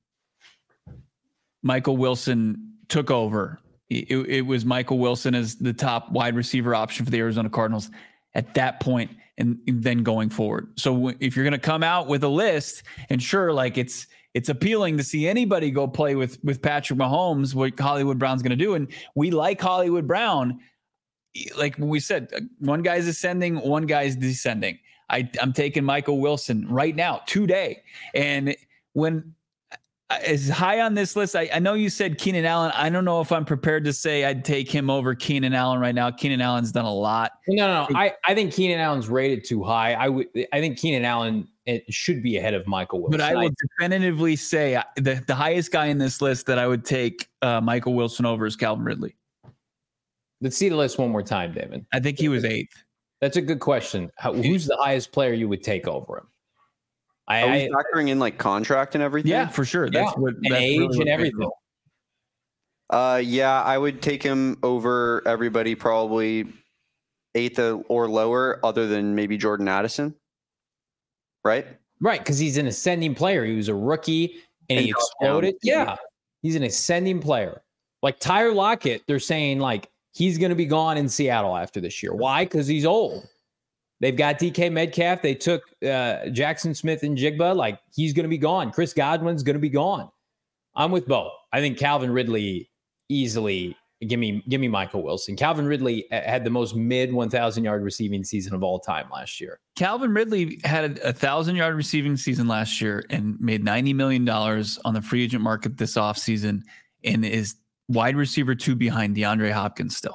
Michael Wilson took over. It, it was Michael Wilson as the top wide receiver option for the Arizona Cardinals at that point and, and then going forward. So if you're going to come out with a list, and sure, like it's it's appealing to see anybody go play with, with Patrick Mahomes, what Hollywood Brown's going to do. And we like Hollywood Brown. Like we said, one guy's ascending, one guy's descending. I, I'm taking Michael Wilson right now, today. And when as high on this list, I, I know you said Keenan Allen. I don't know if I'm prepared to say I'd take him over Keenan Allen right now. Keenan Allen's done a lot. No, no, no. I, I think Keenan Allen's rated too high. I would. I think Keenan Allen it should be ahead of Michael Wilson. But I will definitively say the, the highest guy in this list that I would take uh, Michael Wilson over is Calvin Ridley. Let's see the list one more time, David. I think he was eighth. That's a good question. How, who's the highest player you would take over him? I, Are we factoring in like contract and everything? Yeah, for sure. That's yeah. what and that's age really and everything. Uh, yeah, I would take him over everybody, probably eighth or lower, other than maybe Jordan Addison. Right? Right, because he's an ascending player. He was a rookie and, and he exploded. Yeah, he's an ascending player. Like Tyler Lockett, they're saying like he's going to be gone in Seattle after this year. Why? Because he's old. They've got D K Metcalf. They took uh, Jackson Smith and Jigba. Like, he's going to be gone. Chris Godwin's going to be gone. I'm with Bo. I think Calvin Ridley easily, give me give me Michael Wilson. Calvin Ridley had the most mid one thousand yard receiving season of all time last year. Calvin Ridley had a one thousand yard receiving season last year and made ninety million dollars on the free agent market this offseason and is wide receiver two behind DeAndre Hopkins still.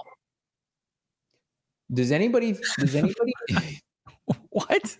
Does anybody, does anybody, what?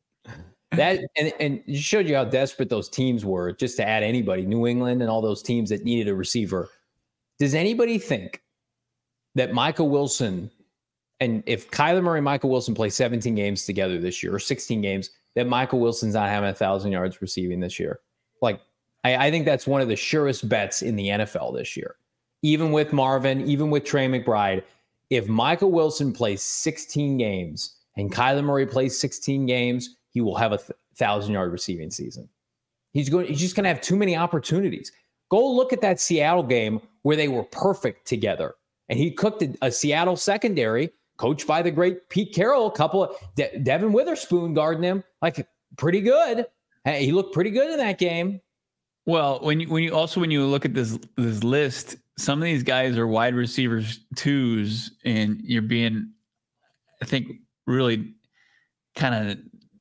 That, and, and it showed you how desperate those teams were just to add anybody, New England and all those teams that needed a receiver. Does anybody think that Michael Wilson, and if Kyler Murray and Michael Wilson play seventeen games together this year or sixteen games, that Michael Wilson's not having a thousand yards receiving this year? Like, I, I think that's one of the surest bets in the N F L this year. Even with Marvin, even with Trey McBride, if Michael Wilson plays sixteen games and Kyler Murray plays sixteen games, he will have a th- thousand-yard receiving season. He's going. He's just going to have too many opportunities. Go look at that Seattle game where they were perfect together, and he cooked a, a Seattle secondary coached by the great Pete Carroll. A couple of De- Devin Witherspoon guarding him, like pretty good. Hey, he looked pretty good in that game. Well, when you when you also when you look at this this list, some of these guys are wide receivers twos, and you're being, I think, really kind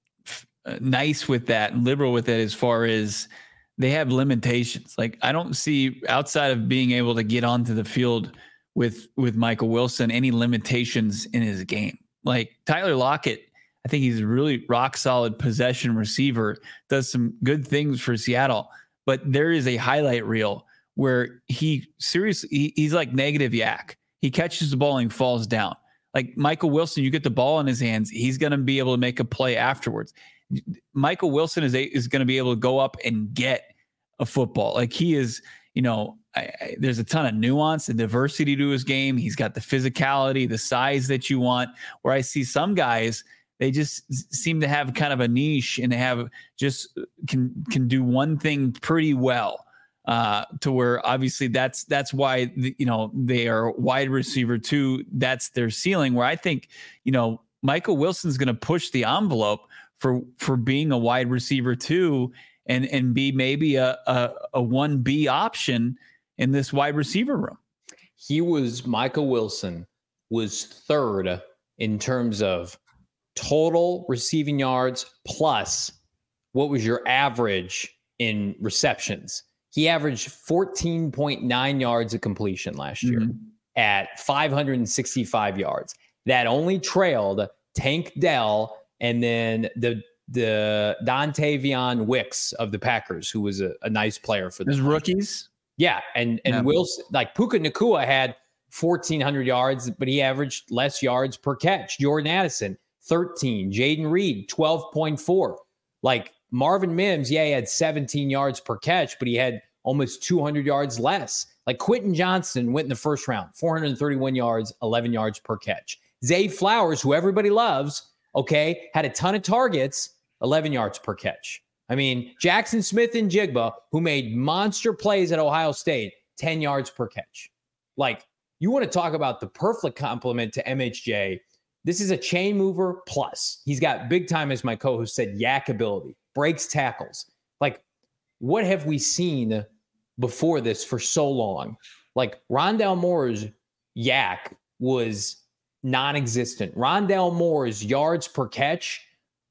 of nice with that and liberal with it as far as they have limitations. Like, I don't see, outside of being able to get onto the field with with Michael Wilson, any limitations in his game. Like Tyler Lockett, I think he's a really rock solid possession receiver, does some good things for Seattle, but there is a highlight reel where he seriously, he, he's like negative yak. He catches the ball and falls down. Like Michael Wilson, you get the ball in his hands, he's going to be able to make a play afterwards. Michael Wilson is a, is going to be able to go up and get a football. Like he is, you know, I, I, there's a ton of nuance and diversity to his game. He's got the physicality, the size that you want, where I see some guys, they just seem to have kind of a niche and have just can, can do one thing pretty well. Uh, to where obviously that's that's why the, you know they are wide receiver two. That's their ceiling. Where I think you know Michael Wilson's going to push the envelope for for being a wide receiver two and and be maybe a a, a one B option in this wide receiver room. He was Michael Wilson was third in terms of total receiving yards plus what was your average in receptions. He averaged fourteen point nine yards of completion last year mm-hmm. at five hundred sixty-five yards. That only trailed Tank Dell and then the the Dontavion Wicks of the Packers, who was a, a nice player for the rookies. Yeah, and and yeah. Wilson, like Puka Nacua had fourteen hundred yards, but he averaged less yards per catch. Jordan Addison, thirteen. Jaden Reed, twelve point four. Like Marvin Mims, yeah, he had seventeen yards per catch, but he had almost two hundred yards less. Like Quentin Johnson went in the first round, four hundred thirty-one yards, eleven yards per catch. Zay Flowers, who everybody loves, okay, had a ton of targets, eleven yards per catch. I mean, Jackson Smith and Jigba, who made monster plays at Ohio State, ten yards per catch. Like, you want to talk about the perfect complement to M H J. This is a chain mover plus. He's got big time, as my co-host said, yak ability, breaks tackles. Like, what have we seen before this for so long? Like, Rondale Moore's yak was non-existent. Rondale Moore's yards per catch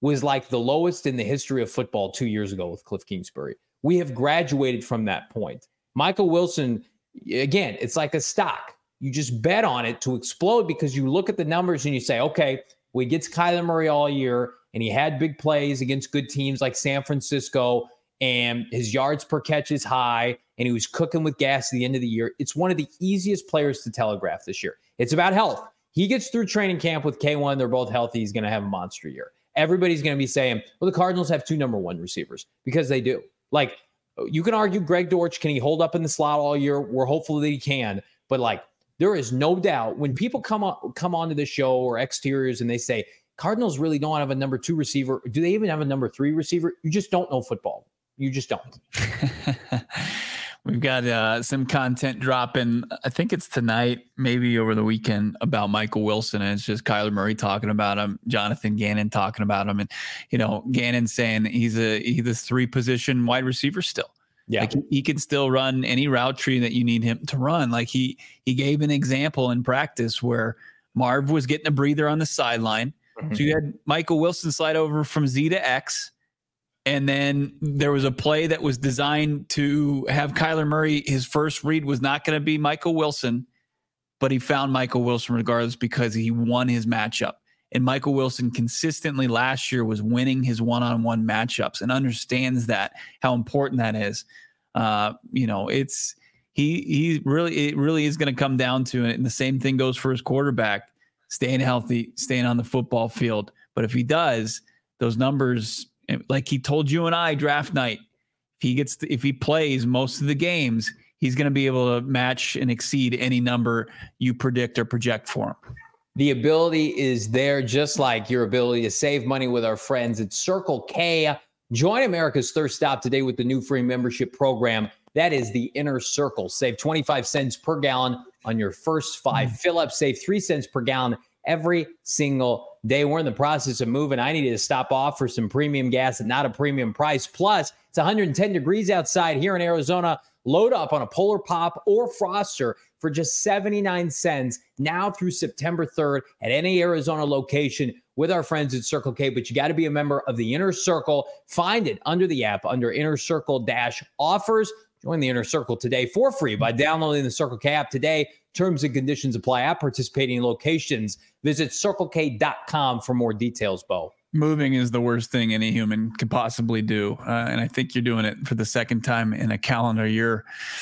was like the lowest in the history of football two years ago with Cliff Kingsbury. We have graduated from that point. Michael Wilson, again, it's like a stock. You just bet on it to explode because you look at the numbers and you say, okay, well, he gets Kyler Murray all year and he had big plays against good teams like San Francisco and his yards per catch is high and he was cooking with gas at the end of the year. It's one of the easiest players to telegraph this year. It's about health. He gets through training camp with K one. They're both healthy. He's going to have a monster year. Everybody's going to be saying, well, the Cardinals have two number one receivers because they do. Like, you can argue Greg Dortch, can he hold up in the slot all year? We're hopeful that he can. But, like, there is no doubt when people come on, come onto the show or exteriors and they say, Cardinals really don't have a number two receiver. Do they even have a number three receiver? You just don't know football. You just don't. We've got uh, some content dropping. I think it's tonight, maybe over the weekend, about Michael Wilson. And it's just Kyler Murray talking about him, Jonathan Gannon talking about him. And, you know, Gannon saying he's a he's a three position wide receiver still. Yeah. Like he, he can still run any route tree that you need him to run. Like he he gave an example in practice where Marv was getting a breather on the sideline. Mm-hmm. So you had Michael Wilson slide over from Z to X. And then there was a play that was designed to have Kyler Murray. His first read was not going to be Michael Wilson, but he found Michael Wilson regardless because he won his matchup. And Michael Wilson consistently last year was winning his one-on-one matchups and understands that, how important that is. Uh, you know, it's he he really it really is going to come down to it. And the same thing goes for his quarterback, staying healthy, staying on the football field. But if he does, those numbers, like he told you and I draft night, if he gets, to, if he plays most of the games, he's going to be able to match and exceed any number you predict or project for him. The ability is there, just like your ability to save money with our friends at Circle K. Join America's thirst stop today with the new free membership program. That is the Inner Circle. Save twenty-five cents per gallon on your first five mm. fill-ups. Save three cents per gallon every single day. We're in the process of moving. I needed to stop off for some premium gas at not a premium price. Plus, it's one hundred ten degrees outside here in Arizona. Load up on a Polar Pop or Froster for just seventy-nine cents now through September third at any Arizona location with our friends at Circle K. But you got to be a member of the Inner Circle. Find it under the app under Inner Circle Dash Offers. Join the Inner Circle today for free by downloading the Circle K app today. Terms and conditions apply at participating locations. Visit circle k dot com for more details, Bo. Moving is the worst thing any human could possibly do. Uh, and I think you're doing it for the second time in a calendar year.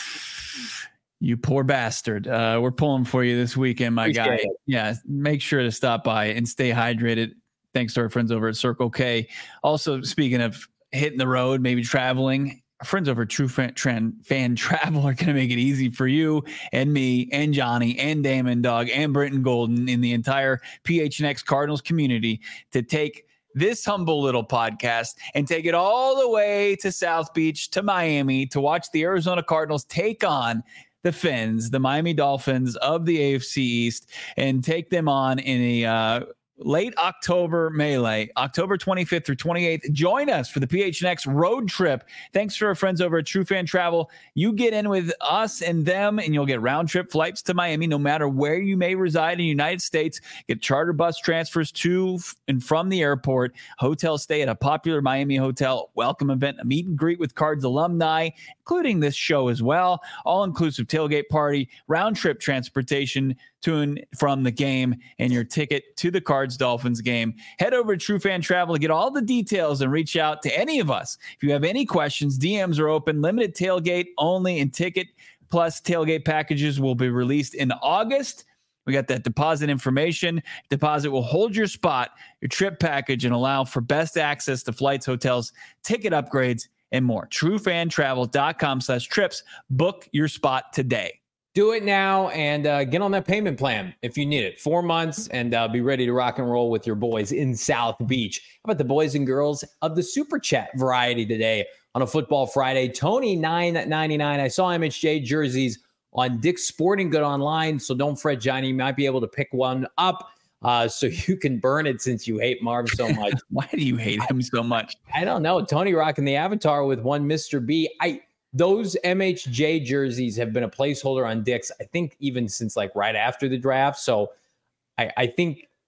You poor bastard. Uh, we're pulling for you this weekend, my Appreciate guy. It. Yeah, make sure to stop by and stay hydrated. Thanks to our friends over at Circle K. Also, speaking of hitting the road, maybe traveling, our friends over at True Fan, Fan, Fan Travel are going to make it easy for you and me and Johnny and Damon Dog and Britton Golden in the entire P H N X Cardinals community to take this humble little podcast and take it all the way to South Beach, to Miami, to watch the Arizona Cardinals take on the Fins, the Miami Dolphins of the A F C East, and take them on in a uh, late October melee, October twenty-fifth through twenty-eighth. Join us for the P H N X road trip. Thanks to our friends over at True Fan Travel. You get in with us and them, and you'll get round trip flights to Miami, no matter where you may reside in the United States. Get charter bus transfers to and from the airport, hotel stay at a popular Miami hotel, welcome event, a meet and greet with Cards alumni, including this show as well, all-inclusive tailgate party, round trip transportation to and from the game, and your ticket to the Cards Dolphins game. Head over to True Fan Travel to get all the details and reach out to any of us. If you have any questions, D Ms are open, limited tailgate only, and ticket plus tailgate packages will be released in August. We got that deposit information. Deposit will hold your spot, your trip package, and allow for best access to flights, hotels, ticket upgrades, and more. TrueFanTravel.com slash trips. Book your spot today. Do it now and uh, get on that payment plan if you need it. Four months and uh, be ready to rock and roll with your boys in South Beach. How about the boys and girls of the Super Chat variety today on a Football Friday? Tony nine ninety-nine. I saw M H J jerseys on Dick's Sporting Good online, so don't fret, Johnny. You might be able to pick one up uh, so you can burn it since you hate Marv so much. Why do you hate him so much? I don't know. Tony rocking the avatar with one Mister B. I Those M H J jerseys have been a placeholder on Dick's, I think, even since like right after the draft. So I, I think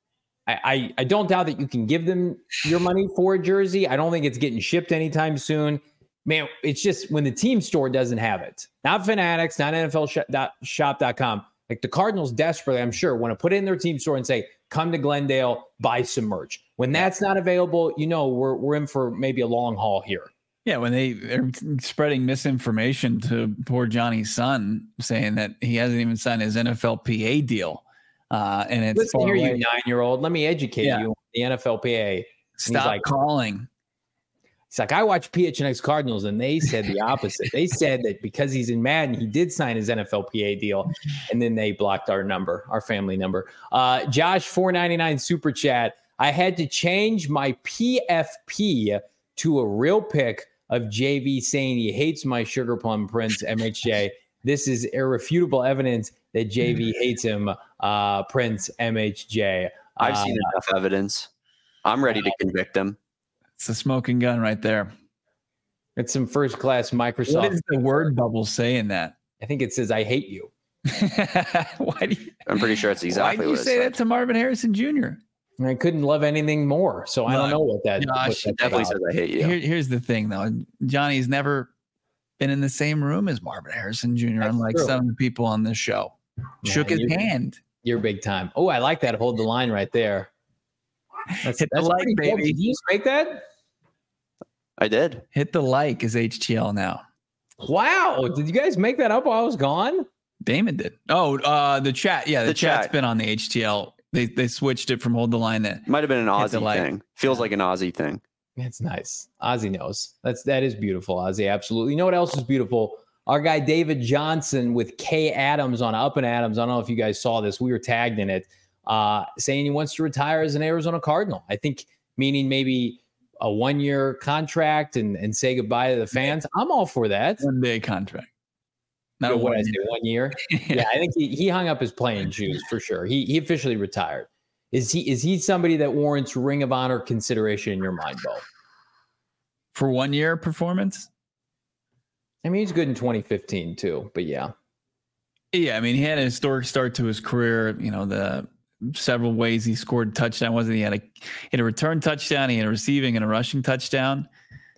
I, I, I don't doubt that you can give them your money for a jersey. I don't think it's getting shipped anytime soon. Man, it's just when the team store doesn't have it. Not Fanatics, not N F L shop dot com. Like the Cardinals desperately, I'm sure, want to put it in their team store and say, come to Glendale, buy some merch. When that's not available, you know, we're we're in for maybe a long haul here. Yeah, when they are spreading misinformation to poor Johnny's son, saying that he hasn't even signed his N F L P A deal. Uh, and it's Listen here, you nine-year-old. Let me educate yeah. you on the N F L P A. Stop like, calling. He's like, I watch P H N X Cardinals, and they said the opposite. They said that because he's in Madden, he did sign his N F L P A deal, and then they blocked our number, our family number. Uh, Josh, four ninety-nine super chat. I had to change my P F P to a real pic of J V saying he hates my Sugar Plum Prince, M H J. This is irrefutable evidence that J V hates him, uh, Prince, M H J. I've uh, seen enough evidence. I'm ready to convict him. It's a smoking gun right there. It's some first class Microsoft. What does the word bubble say in that? I think it says, I hate you. Why do you? I'm pretty sure it's exactly why what did you say said. that to Marvin Harrison Junior? I couldn't love anything more. So no, I don't know what that, Josh, what definitely says I hate you. Here, here's the thing, though. Johnny's never been in the same room as Marvin Harrison Junior, That's unlike true. some of the people on this show. Yeah, Shook his hand. You're big time. Oh, I like that. Hold the line right there. That's, Hit that's the like, baby. Cool. Did you just make that? I did. Hit the like is H T L now. Wow. Did you guys make that up while I was gone? Damon did. Oh, uh, the chat. Yeah, the, the chat's chat. been on the H T L. They they switched it from hold the line to might have been an Aussie like. thing. Feels yeah. like an Aussie thing. That's nice. Ozzy knows. That's that is beautiful, Ozzy. Absolutely. You know what else is beautiful? Our guy David Johnson with K Adams on Up and Adams. I don't know if you guys saw this. We were tagged in it, uh, saying he wants to retire as an Arizona Cardinal. I think meaning maybe a one-year contract and, and say goodbye to the fans. I'm all for that. One-day contract. Not you know, what I say, one year. yeah. yeah, I think he, he hung up his playing shoes for sure. He he officially retired. Is he is he somebody that warrants Ring of Honor consideration in your mind, Bo? For one year performance? I mean, he's good in twenty fifteen too, but yeah. Yeah, I mean, he had a historic start to his career. You know, the several ways he scored touchdown. Wasn't he had a he had a return touchdown, he had a receiving and a rushing touchdown.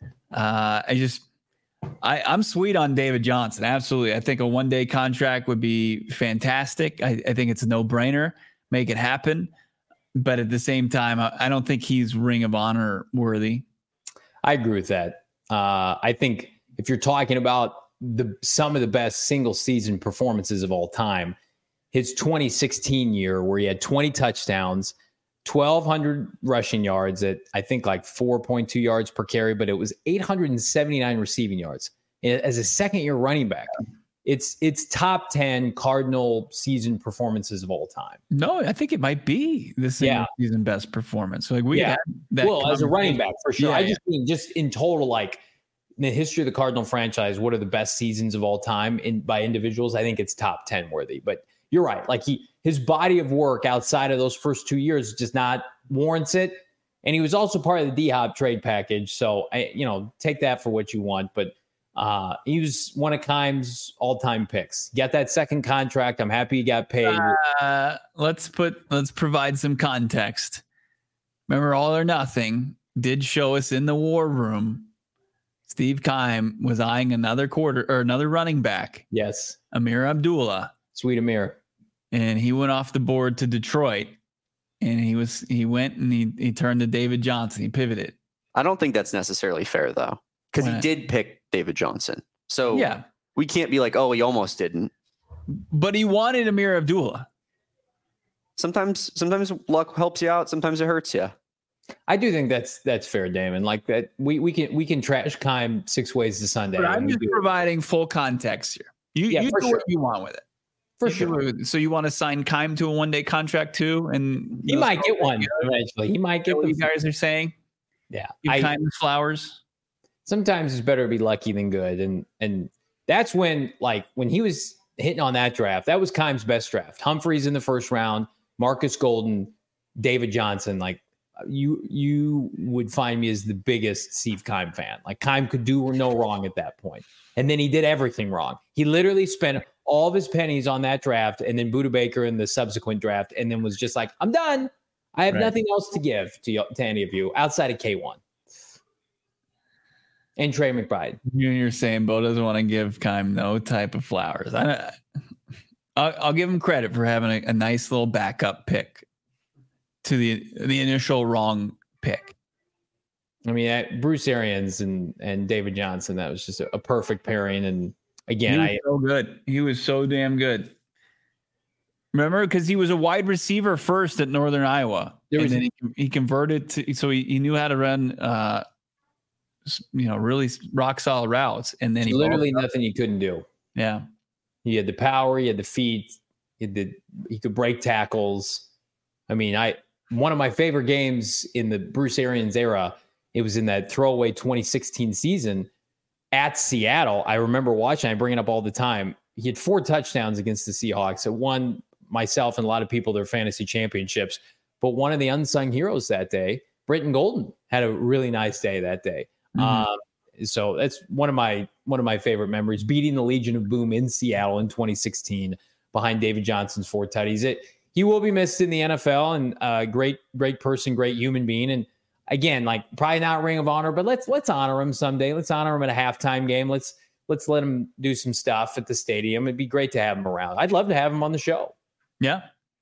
Uh, I just I, I'm sweet on David Johnson. Absolutely. I think a one-day contract would be fantastic. I, I think it's a no-brainer. Make it happen. But at the same time, I, I don't think he's Ring of Honor worthy. I agree with that. Uh, I think if you're talking about the some of the best single-season performances of all time, his twenty sixteen year where he had twenty touchdowns, twelve hundred rushing yards at I think like four point two yards per carry, but it was eight hundred seventy-nine receiving yards as a second year running back. It's it's top ten Cardinal season performances of all time. No, I think it might be the single yeah. season best performance. Like we yeah. had that well as a running back for sure. Yeah, I yeah. just mean just in total, like in the history of the Cardinal franchise, what are the best seasons of all time in by individuals? I think it's top ten worthy. But you're right. Like he his body of work outside of those first two years just not warrants it. And he was also part of the D-Hop trade package. So, I, you know, take that for what you want. But uh, he was one of Keim's all-time picks. Got that second contract. I'm happy he got paid. Uh, let's put let's provide some context. Remember, All or Nothing did show us in the war room. Steve Keim was eyeing another quarter or another running back. Yes, Amir Abdullah. Sweet Amir. And he went off the board to Detroit. And he was he went and he he turned to David Johnson. He pivoted. I don't think that's necessarily fair though, because he did pick David Johnson. So yeah, we can't be like, oh, he almost didn't. But he wanted Amir Abdullah. Sometimes sometimes luck helps you out. Sometimes it hurts you. I do think that's that's fair, Damon. Like that, we we can we can trash Keim six ways to Sunday. But I'm just providing full context here. You yeah, you do sure. what you want with it. For you sure. Do, so you want to sign Keim to a one-day contract too, and he might get one eventually. He might get what the, you guys are saying. Yeah, Give Keim his flowers. Sometimes it's better to be lucky than good, and and that's when like when he was hitting on that draft, that was Keim's best draft. Humphreys in the first round, Marcus Golden, David Johnson. Like you you would find me as the biggest Steve Keim fan. Like Keim could do no wrong at that point, and then he did everything wrong. He literally spent all of his pennies on that draft and then Budda Baker in the subsequent draft, and then was just like, I'm done. I have right. nothing else to give to, to any of you outside of K one and Trey McBride. You and you're saying Bo doesn't want to give Keim no type of flowers. I, I'll, I'll give him credit for having a, a nice little backup pick to the the initial wrong pick. I mean, I, Bruce Arians and and David Johnson, that was just a, a perfect pairing. And again, he was I so good. He was so damn good. Remember, because he was a wide receiver first at Northern Iowa, and then he, he converted to so he, he knew how to run, uh, you know, really rock solid routes, and then he literally nothing he couldn't do. Yeah. He had the power, he had the feet, he had the, he could break tackles. I mean, I one of my favorite games in the Bruce Arians era, it was in that throwaway twenty sixteen season at Seattle. I remember watching, I bring it up all the time. He had four touchdowns against the Seahawks. It won myself and a lot of people their fantasy championships. But one of the unsung heroes that day, Britton Golden, had a really nice day that day. Mm-hmm. Um, So that's one of my one of my favorite memories, beating the Legion of Boom in Seattle in twenty sixteen behind David Johnson's four tutties. It he will be missed in the N F L, and uh, great great person, great human being. And again, like probably not Ring of Honor, but let's let's honor him someday. Let's honor him at a halftime game. Let's let's let him do some stuff at the stadium. It'd be great to have him around. I'd love to have him on the show. Yeah,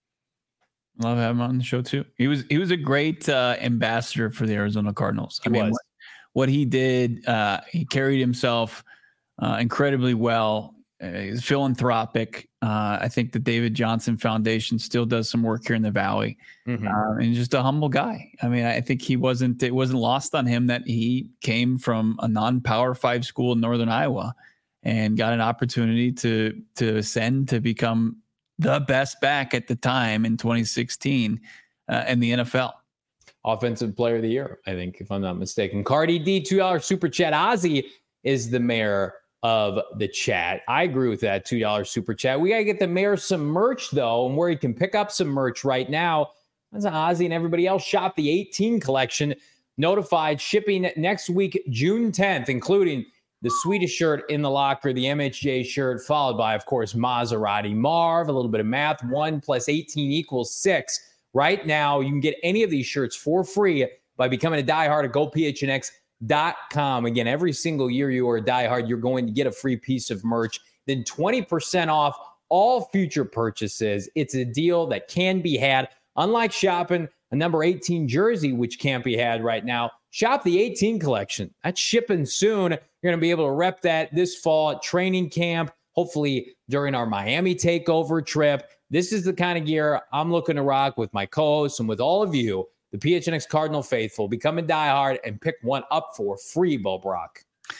love having him on the show too. He was he was a great uh, ambassador for the Arizona Cardinals. He I mean. was. What, What he did, uh, he carried himself uh, incredibly well. Uh, he's philanthropic. Uh, I think the David Johnson Foundation still does some work here in the Valley, mm-hmm. uh, and just a humble guy. I mean, I think he wasn't. It wasn't lost on him that he came from a non-Power Five school in Northern Iowa, and got an opportunity to to ascend to become the best back at the time in twenty sixteen uh, in the N F L. Offensive player of the year, I think, if I'm not mistaken. Cardi D, two dollars super chat. Ozzy is the mayor of the chat. I agree with that two dollars super chat. We got to get the mayor some merch, though, and where he can pick up some merch right now. That's Ozzy and everybody else. Shop the eighteen collection. Notified shipping next week, June tenth, including the Swedish shirt in the locker, the M H J shirt, followed by, of course, Maserati Marv. A little bit of math. One plus eighteen equals six. Right now, you can get any of these shirts for free by becoming a diehard at go p h n x dot com. Again, every single year you are a diehard, you're going to get a free piece of merch. Then twenty percent off all future purchases. It's a deal that can be had. Unlike shopping a number eighteen jersey, which can't be had right now, shop the eighteen collection. That's shipping soon. You're going to be able to rep that this fall at training camp, hopefully during our Miami takeover trip. This is the kind of gear I'm looking to rock with my co-hosts and with all of you, the P H N X Cardinal faithful. Become a diehard and pick one up for free, Bo Brock.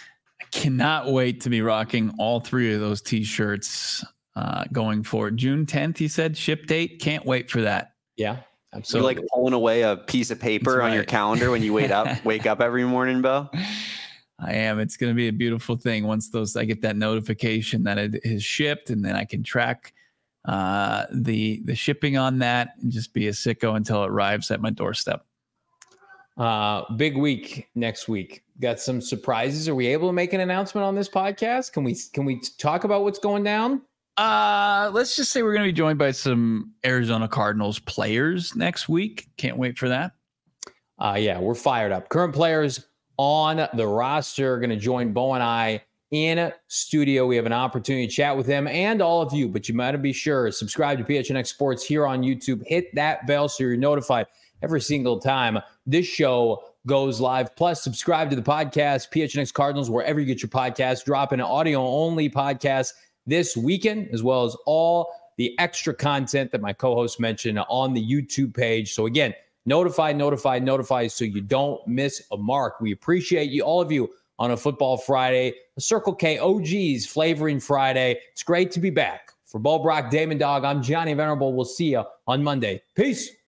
I cannot wait to be rocking all three of those T-shirts uh, going forward. June tenth, he said, ship date. Can't wait for that. Yeah, absolutely. You're like pulling away a piece of paper right. on your calendar when you wake up, wake up every morning, Bo. I am. It's going to be a beautiful thing once those I get that notification that it is shipped, and then I can track uh, the the shipping on that and just be a sicko until it arrives at my doorstep. Uh, big week next week. Got some surprises. Are we able to make an announcement on this podcast? Can we can we talk about what's going down? Uh, let's just say we're going to be joined by some Arizona Cardinals players next week. Can't wait for that. Uh, yeah, we're fired up. Current players on the roster are going to join Bo and I in studio. We have an opportunity to chat with them and all of you, but you might be sure subscribe to P H N X Sports here on YouTube. Hit that bell so you're notified every single time this show goes live. Plus, subscribe to the podcast, P H N X Cardinals, wherever you get your podcasts. Drop in an audio-only podcast this weekend, as well as all the extra content that my co-host mentioned on the YouTube page. So again, notify, notify, notify so you don't miss a mark. We appreciate you, all of you, on a Football Friday, a Circle K O Gs Flavoring Friday. It's great to be back. For Bo Brock, Damon Dog, I'm Johnny Venerable. We'll see you on Monday. Peace.